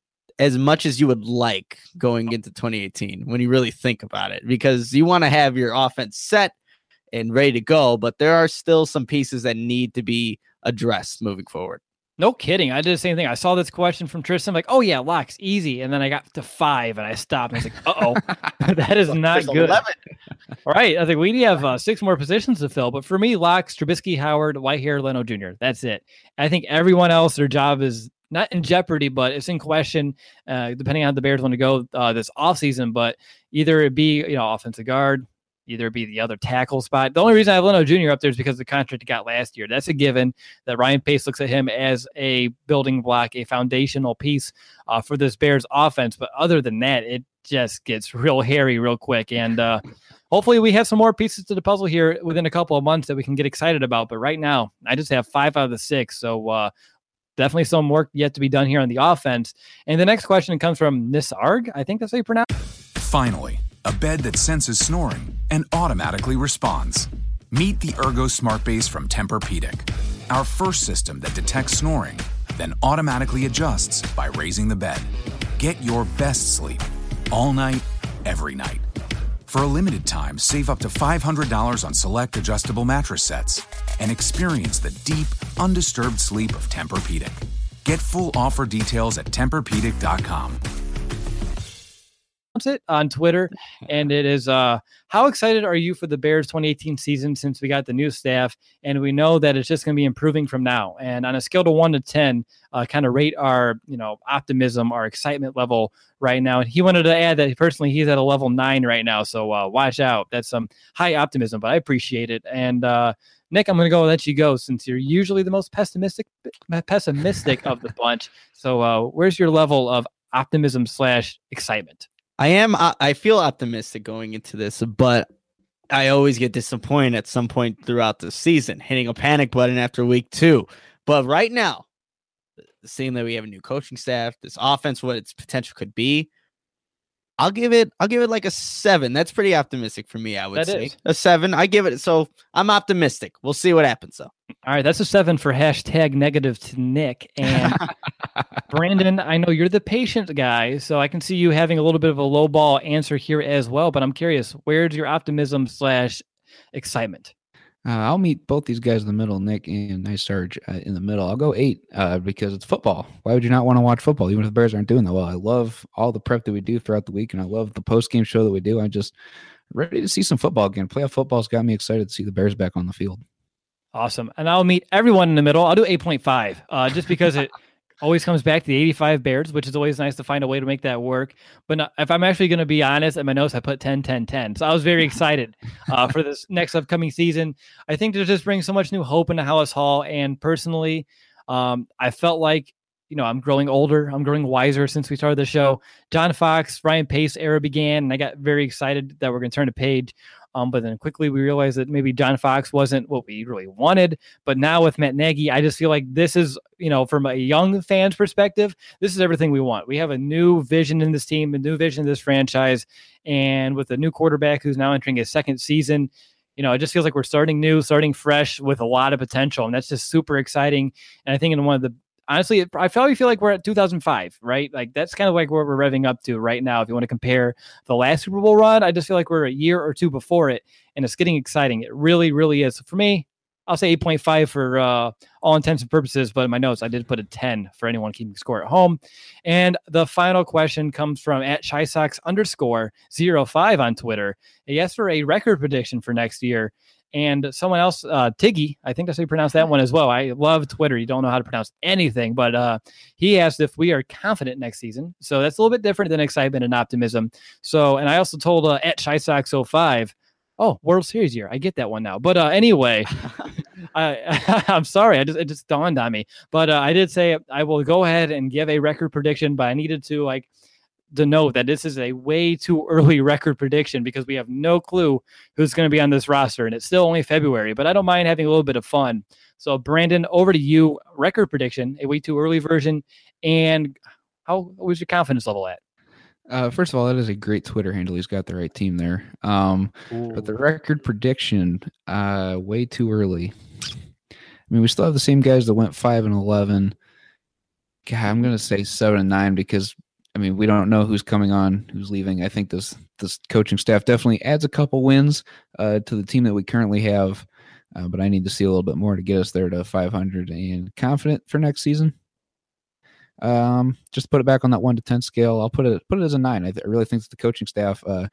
as much as you would like going into twenty eighteen when you really think about it, because you want to have your offense set and ready to go, but there are still some pieces that need to be addressed moving forward. No kidding. I did the same thing. I saw this question from Tristan, like, oh yeah, locks, easy. And then I got to five and I stopped. And I was like, uh-oh, that is not good. eleven. All right. I think we have uh, six more positions to fill. But for me, locks, Trubisky, Howard, Whitehair, Leno Junior That's it. I think everyone else, their job is not in jeopardy, but it's in question, uh, depending on how the Bears want to go uh, this offseason. But either it be, you know, offensive guard, either be the other tackle spot. The only reason I have Leno Junior up there is because of the contract he got last year. That's a given that Ryan Pace looks at him as a building block, a foundational piece uh, for this Bears offense. But other than that, it just gets real hairy real quick. And uh, hopefully we have some more pieces to the puzzle here within a couple of months that we can get excited about. But right now, I just have five out of the six. So uh, definitely some work yet to be done here on the offense. And the next question comes from Nisarg. I think that's how you pronounce it. Finally, a bed that senses snoring and automatically responds. Meet the Ergo Smart Base from Tempur-Pedic, our first system that detects snoring, then automatically adjusts by raising the bed. Get your best sleep all night, every night. For a limited time, save up to five hundred dollars on select adjustable mattress sets and experience the deep, undisturbed sleep of Tempur-Pedic. Get full offer details at Tempur Pedic dot com. It on Twitter, and it is uh how excited are you for the Bears twenty eighteen season since we got the new staff and we know that it's just going to be improving from now? And on a scale to one to ten, uh kind of rate our you know optimism, our excitement level right now. And he wanted to add that personally he's at a level nine right now, so uh watch out. That's some high optimism, but I appreciate it. And uh Nick, I'm going to go and let you go since you're usually the most pessimistic pessimistic of the bunch. So uh where's your level of optimism slash excitement? I am. I feel optimistic going into this, but I always get disappointed at some point throughout the season, hitting a panic button after week two. But right now, seeing that we have a new coaching staff, this offense, what its potential could be, I'll give it. I'll give it like a seven. That's pretty optimistic for me. I would that say is. a seven. I give it. So I'm optimistic. We'll see what happens though. All right, that's a seven for hashtag negative to Nick. And Brandon, I know you're the patient guy, so I can see you having a little bit of a low ball answer here as well. But I'm curious, where's your optimism slash excitement? Uh, I'll meet both these guys in the middle, Nick and Nice Sarge uh, in the middle. I'll go eight uh, because it's football. Why would you not want to watch football, even if the Bears aren't doing that well? I love all the prep that we do throughout the week, and I love the post-game show that we do. I'm just ready to see some football again. Playoff football's got me excited to see the Bears back on the field. Awesome. And I'll meet everyone in the middle. I'll do eight point five uh, just because it always comes back to the eighty-five Bears, which is always nice to find a way to make that work. But no, if I'm actually going to be honest, in my notes, I put ten, ten, ten. So I was very excited uh, for this next upcoming season. I think to just bring so much new hope into Hallis Hall. And personally, um, I felt like, you know, I'm growing older. I'm growing wiser since we started the show. John Fox, Ryan Pace era began, and I got very excited that we're going to turn a page Um, but then quickly we realized that maybe John Fox wasn't what we really wanted. But now with Matt Nagy, I just feel like this is, you know, from a young fan's perspective, this is everything we want. We have a new vision in this team, a new vision in this franchise. And with a new quarterback who's now entering his second season, you know, it just feels like we're starting new, starting fresh with a lot of potential. And that's just super exciting. And I think in one of the, honestly, it, I probably feel like we're at two thousand five, right? Like that's kind of like where we're revving up to right now. If you want to compare the last Super Bowl run, I just feel like we're a year or two before it, and it's getting exciting. It really, really is. So for me, I'll say eight point five for uh, all intents and purposes, but in my notes, I did put a ten for anyone keeping score at home. And the final question comes from at ShySox underscore zero five on Twitter. He asked for a record prediction for next year. And someone else, uh, Tiggy, I think that's how you pronounce that one as well. I love Twitter. You don't know how to pronounce anything, but uh, he asked if we are confident next season. So that's a little bit different than excitement and optimism. So, and I also told uh, at ShySox oh five, oh, World Series year. I get that one now. But uh, anyway, I, I'm sorry. I just it just dawned on me. But uh, I did say I will go ahead and give a record prediction, but I needed to like to note that this is a way too early record prediction because we have no clue who's going to be on this roster, and it's still only February, but I don't mind having a little bit of fun. So Brandon, over to you. Record prediction, a way too early version, and how was your confidence level at? Uh, first of all, that is a great Twitter handle. He's got the right team there. Um, but the record prediction, uh, way too early. I mean, we still have the same guys that went five and eleven. God, I'm going to say seven and nine because I mean, we don't know who's coming on, who's leaving. I think this this coaching staff definitely adds a couple wins uh, to the team that we currently have, uh, but I need to see a little bit more to get us there to five hundred and confident for next season. Um, just put it back on that one to ten scale. I'll put it put it as a nine. I, th- I really think that the coaching staff, uh,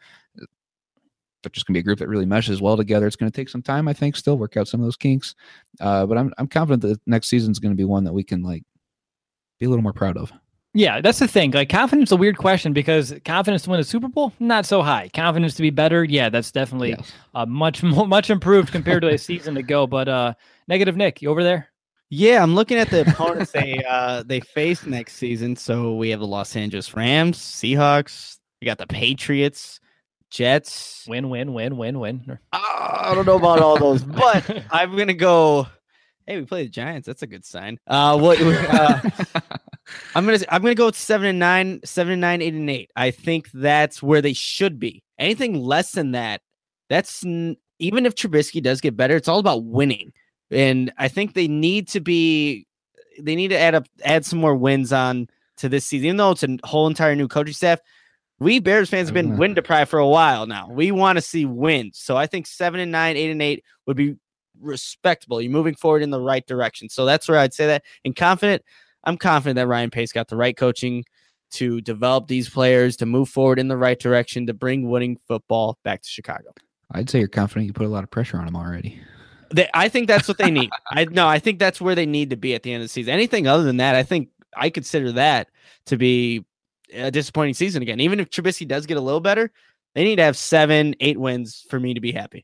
they're just gonna be a group that really meshes well together. It's gonna take some time, I think, still work out some of those kinks, uh, but I'm I'm confident that next season is gonna be one that we can like be a little more proud of. Yeah, that's the thing. Like confidence is a weird question because confidence to win a Super Bowl, not so high. Confidence to be better, yeah, that's definitely yes. uh, much much improved compared to a season ago. But uh, negative Nick, you over there? Yeah, I'm looking at the opponents they uh, they face next season. So we have the Los Angeles Rams, Seahawks. We got the Patriots, Jets. Win, win, win, win, win. Oh, I don't know about all those, but I'm gonna go. Hey, we play the Giants. That's a good sign. Uh, what? Uh, I'm gonna I'm gonna go with seven and nine, seven and nine, eight and eight. I think that's where they should be. Anything less than that, that's n- even if Trubisky does get better, it's all about winning. And I think they need to be, they need to add up, add some more wins on to this season. Even though it's a whole entire new coaching staff, we Bears fans have been win deprived for a while now. We want to see wins. So I think seven and nine, eight and eight would be respectable. You're moving forward in the right direction. So that's where I'd say that. And confident, I'm confident that Ryan Pace got the right coaching to develop these players, to move forward in the right direction, to bring winning football back to Chicago. I'd say you're confident you put a lot of pressure on them already. They, I think that's what they need. I no, I think that's where they need to be at the end of the season. Anything other than that, I think I consider that to be a disappointing season again. Even if Trubisky does get a little better, they need to have seven, eight wins for me to be happy.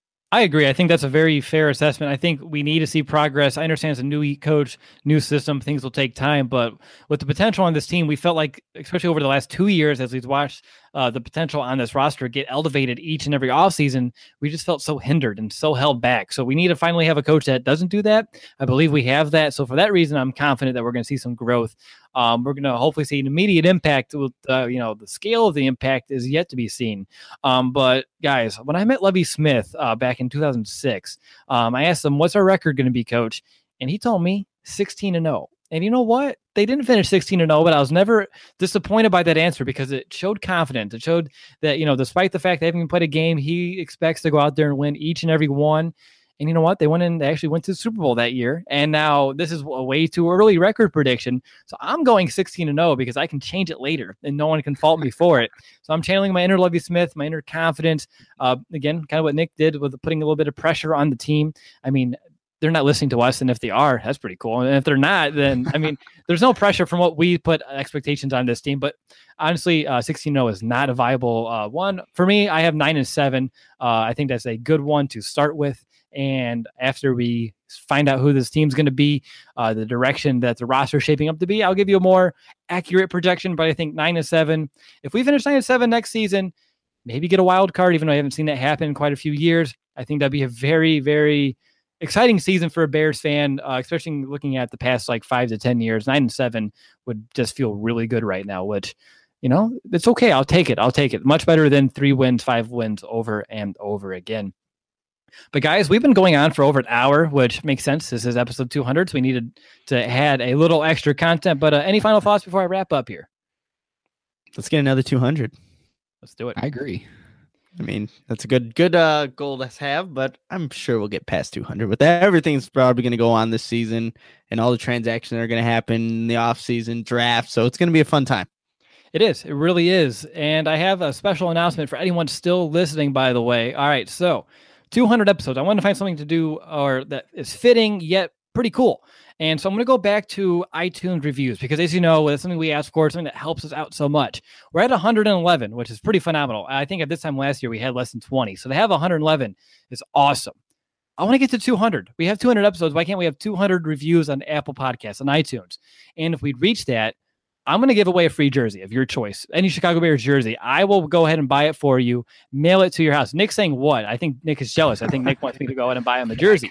I agree. I think that's a very fair assessment. I think we need to see progress. I understand it's a new coach, new system. Things will take time, but with the potential on this team, we felt like, especially over the last two years, as we've watched uh, the potential on this roster get elevated each and every offseason, we just felt so hindered and so held back. So we need to finally have a coach that doesn't do that. I believe we have that. So for that reason, I'm confident that we're going to see some growth. Um, we're going to hopefully see an immediate impact. With uh, you know, the scale of the impact is yet to be seen. Um, but guys, when I met Lovie Smith uh, back in two thousand six, um, I asked him, "What's our record going to be, Coach?" And he told me sixteen and oh. And you know what? They didn't finish sixteen and oh, but I was never disappointed by that answer because it showed confidence. It showed that, you know, despite the fact they haven't even played a game, he expects to go out there and win each and every one. And you know what? They went in, they actually went to the Super Bowl that year. And now this is a way too early record prediction. So I'm going sixteen and oh because I can change it later and no one can fault me for it. So I'm channeling my inner Lovie Smith, my inner confidence. Uh, again, kind of what Nick did with putting a little bit of pressure on the team. I mean, they're not listening to us. And if they are, that's pretty cool. And if they're not, then, I mean, there's no pressure from what we put expectations on this team. But honestly, uh, sixteen and oh is not a viable uh, one. For me, I have nine and seven. Uh, I think that's a good one to start with. And after we find out who this team's going to be, uh, the direction that the roster is shaping up to be, I'll give you a more accurate projection. But I think nine and seven, if we finish nine and seven next season, maybe get a wild card, even though I haven't seen that happen in quite a few years. I think that'd be a very, very exciting season for a Bears fan, uh, especially looking at the past like five to ten years. Nine and seven would just feel really good right now, which, you know, it's okay. I'll take it. I'll take it. Much better than three wins, five wins over and over again. But guys, we've been going on for over an hour, which makes sense. This is episode two hundred, so we needed to add a little extra content. But uh, any final thoughts before I wrap up here? Let's get another two hundred. Let's do it. I agree. I mean, that's a good good uh, goal to have, but I'm sure we'll get past two hundred. With that, everything's probably going to go on this season and all the transactions that are going to happen in the offseason draft. So it's going to be a fun time. It is. It really is. And I have a special announcement for anyone still listening, by the way. All right. So two hundred episodes. I wanted to find something to do or that is fitting yet pretty cool. And so I'm going to go back to iTunes reviews because, as you know, it's something we ask for, something that helps us out so much. We're at one hundred eleven, which is pretty phenomenal. I think at this time last year, we had less than twenty. So to have one hundred eleven is awesome. I want to get to two hundred. We have two hundred episodes. Why can't we have two hundred reviews on Apple Podcasts, on iTunes? And if we reach that, I'm going to give away a free jersey of your choice. Any Chicago Bears jersey. I will go ahead and buy it for you, mail it to your house. Nick's saying what? I think Nick is jealous. I think Nick wants me to go ahead and buy him a jersey.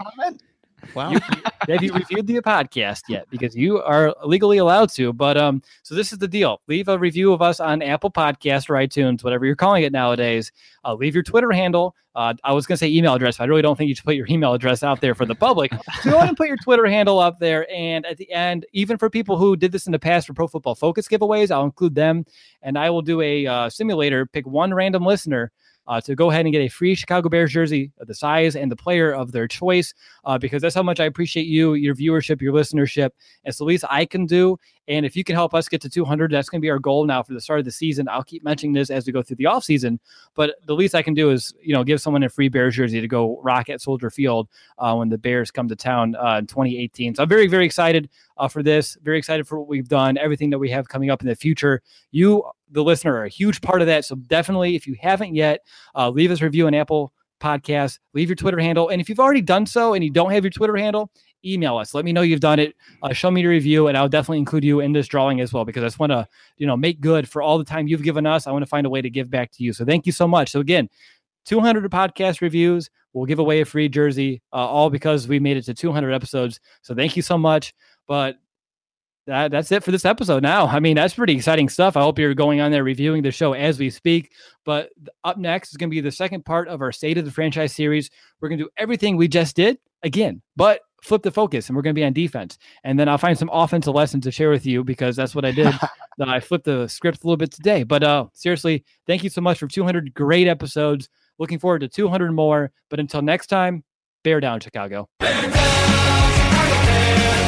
Wow. You, have you reviewed the podcast yet? Because you are legally allowed to. But um, so this is the deal. Leave a review of us on Apple Podcasts or iTunes, whatever you're calling it nowadays. Uh, leave your Twitter handle. Uh, I was going to say email address, but I really don't think you should put your email address out there for the public. So go ahead and put your Twitter handle up there. And at the end, even for people who did this in the past for Pro Football Focus giveaways, I'll include them. And I will do a uh, simulator, pick one random listener Uh, to go ahead and get a free Chicago Bears jersey of the size and the player of their choice, uh, because that's how much I appreciate you, your viewership, your listenership. It's the least I can do. And if you can help us get to two hundred, that's going to be our goal now for the start of the season. I'll keep mentioning this as we go through the offseason, but the least I can do is, you know, give someone a free Bears jersey to go rock at Soldier Field uh, when the Bears come to town uh, in twenty eighteen. So I'm very, very excited uh, for this. Very excited for what we've done, everything that we have coming up in the future. You, the listener, are a huge part of that. So definitely, if you haven't yet, uh, leave us a review on Apple Podcasts, leave your Twitter handle. And if you've already done so and you don't have your Twitter handle, email us. Let me know you've done it. Uh, show me your review, and I'll definitely include you in this drawing as well, because I just want to, you know, make good for all the time you've given us. I want to find a way to give back to you. So thank you so much. So again, two hundred podcast reviews. We'll give away a free jersey, uh, all because we made it to two hundred episodes. So thank you so much. But That, that's it for this episode now. I mean, that's pretty exciting stuff. I hope you're going on there reviewing the show as we speak. But up next is going to be the second part of our State of the Franchise series. We're going to do everything we just did again, but flip the focus, and we're going to be on defense. And then I'll find some offensive lessons to share with you, because that's what I did. I flipped the script a little bit today. But uh, seriously, thank you so much for two hundred great episodes. Looking forward to two hundred more. But until next time, bear down, Chicago. Bear down, Chicago Bears.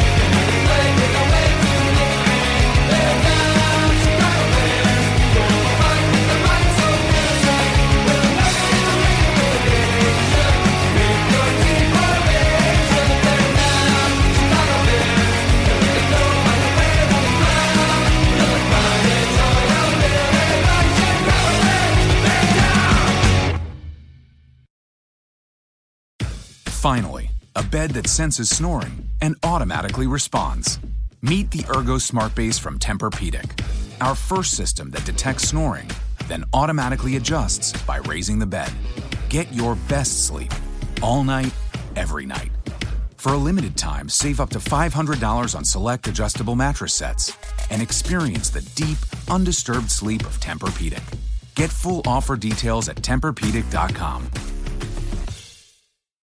Finally, a bed that senses snoring and automatically responds. Meet the Ergo Smart Base from Tempur-Pedic, our first system that detects snoring, then automatically adjusts by raising the bed. Get your best sleep all night, every night. For a limited time, save up to five hundred dollars on select adjustable mattress sets and experience the deep, undisturbed sleep of Tempur-Pedic. Get full offer details at Tempur Pedic dot com.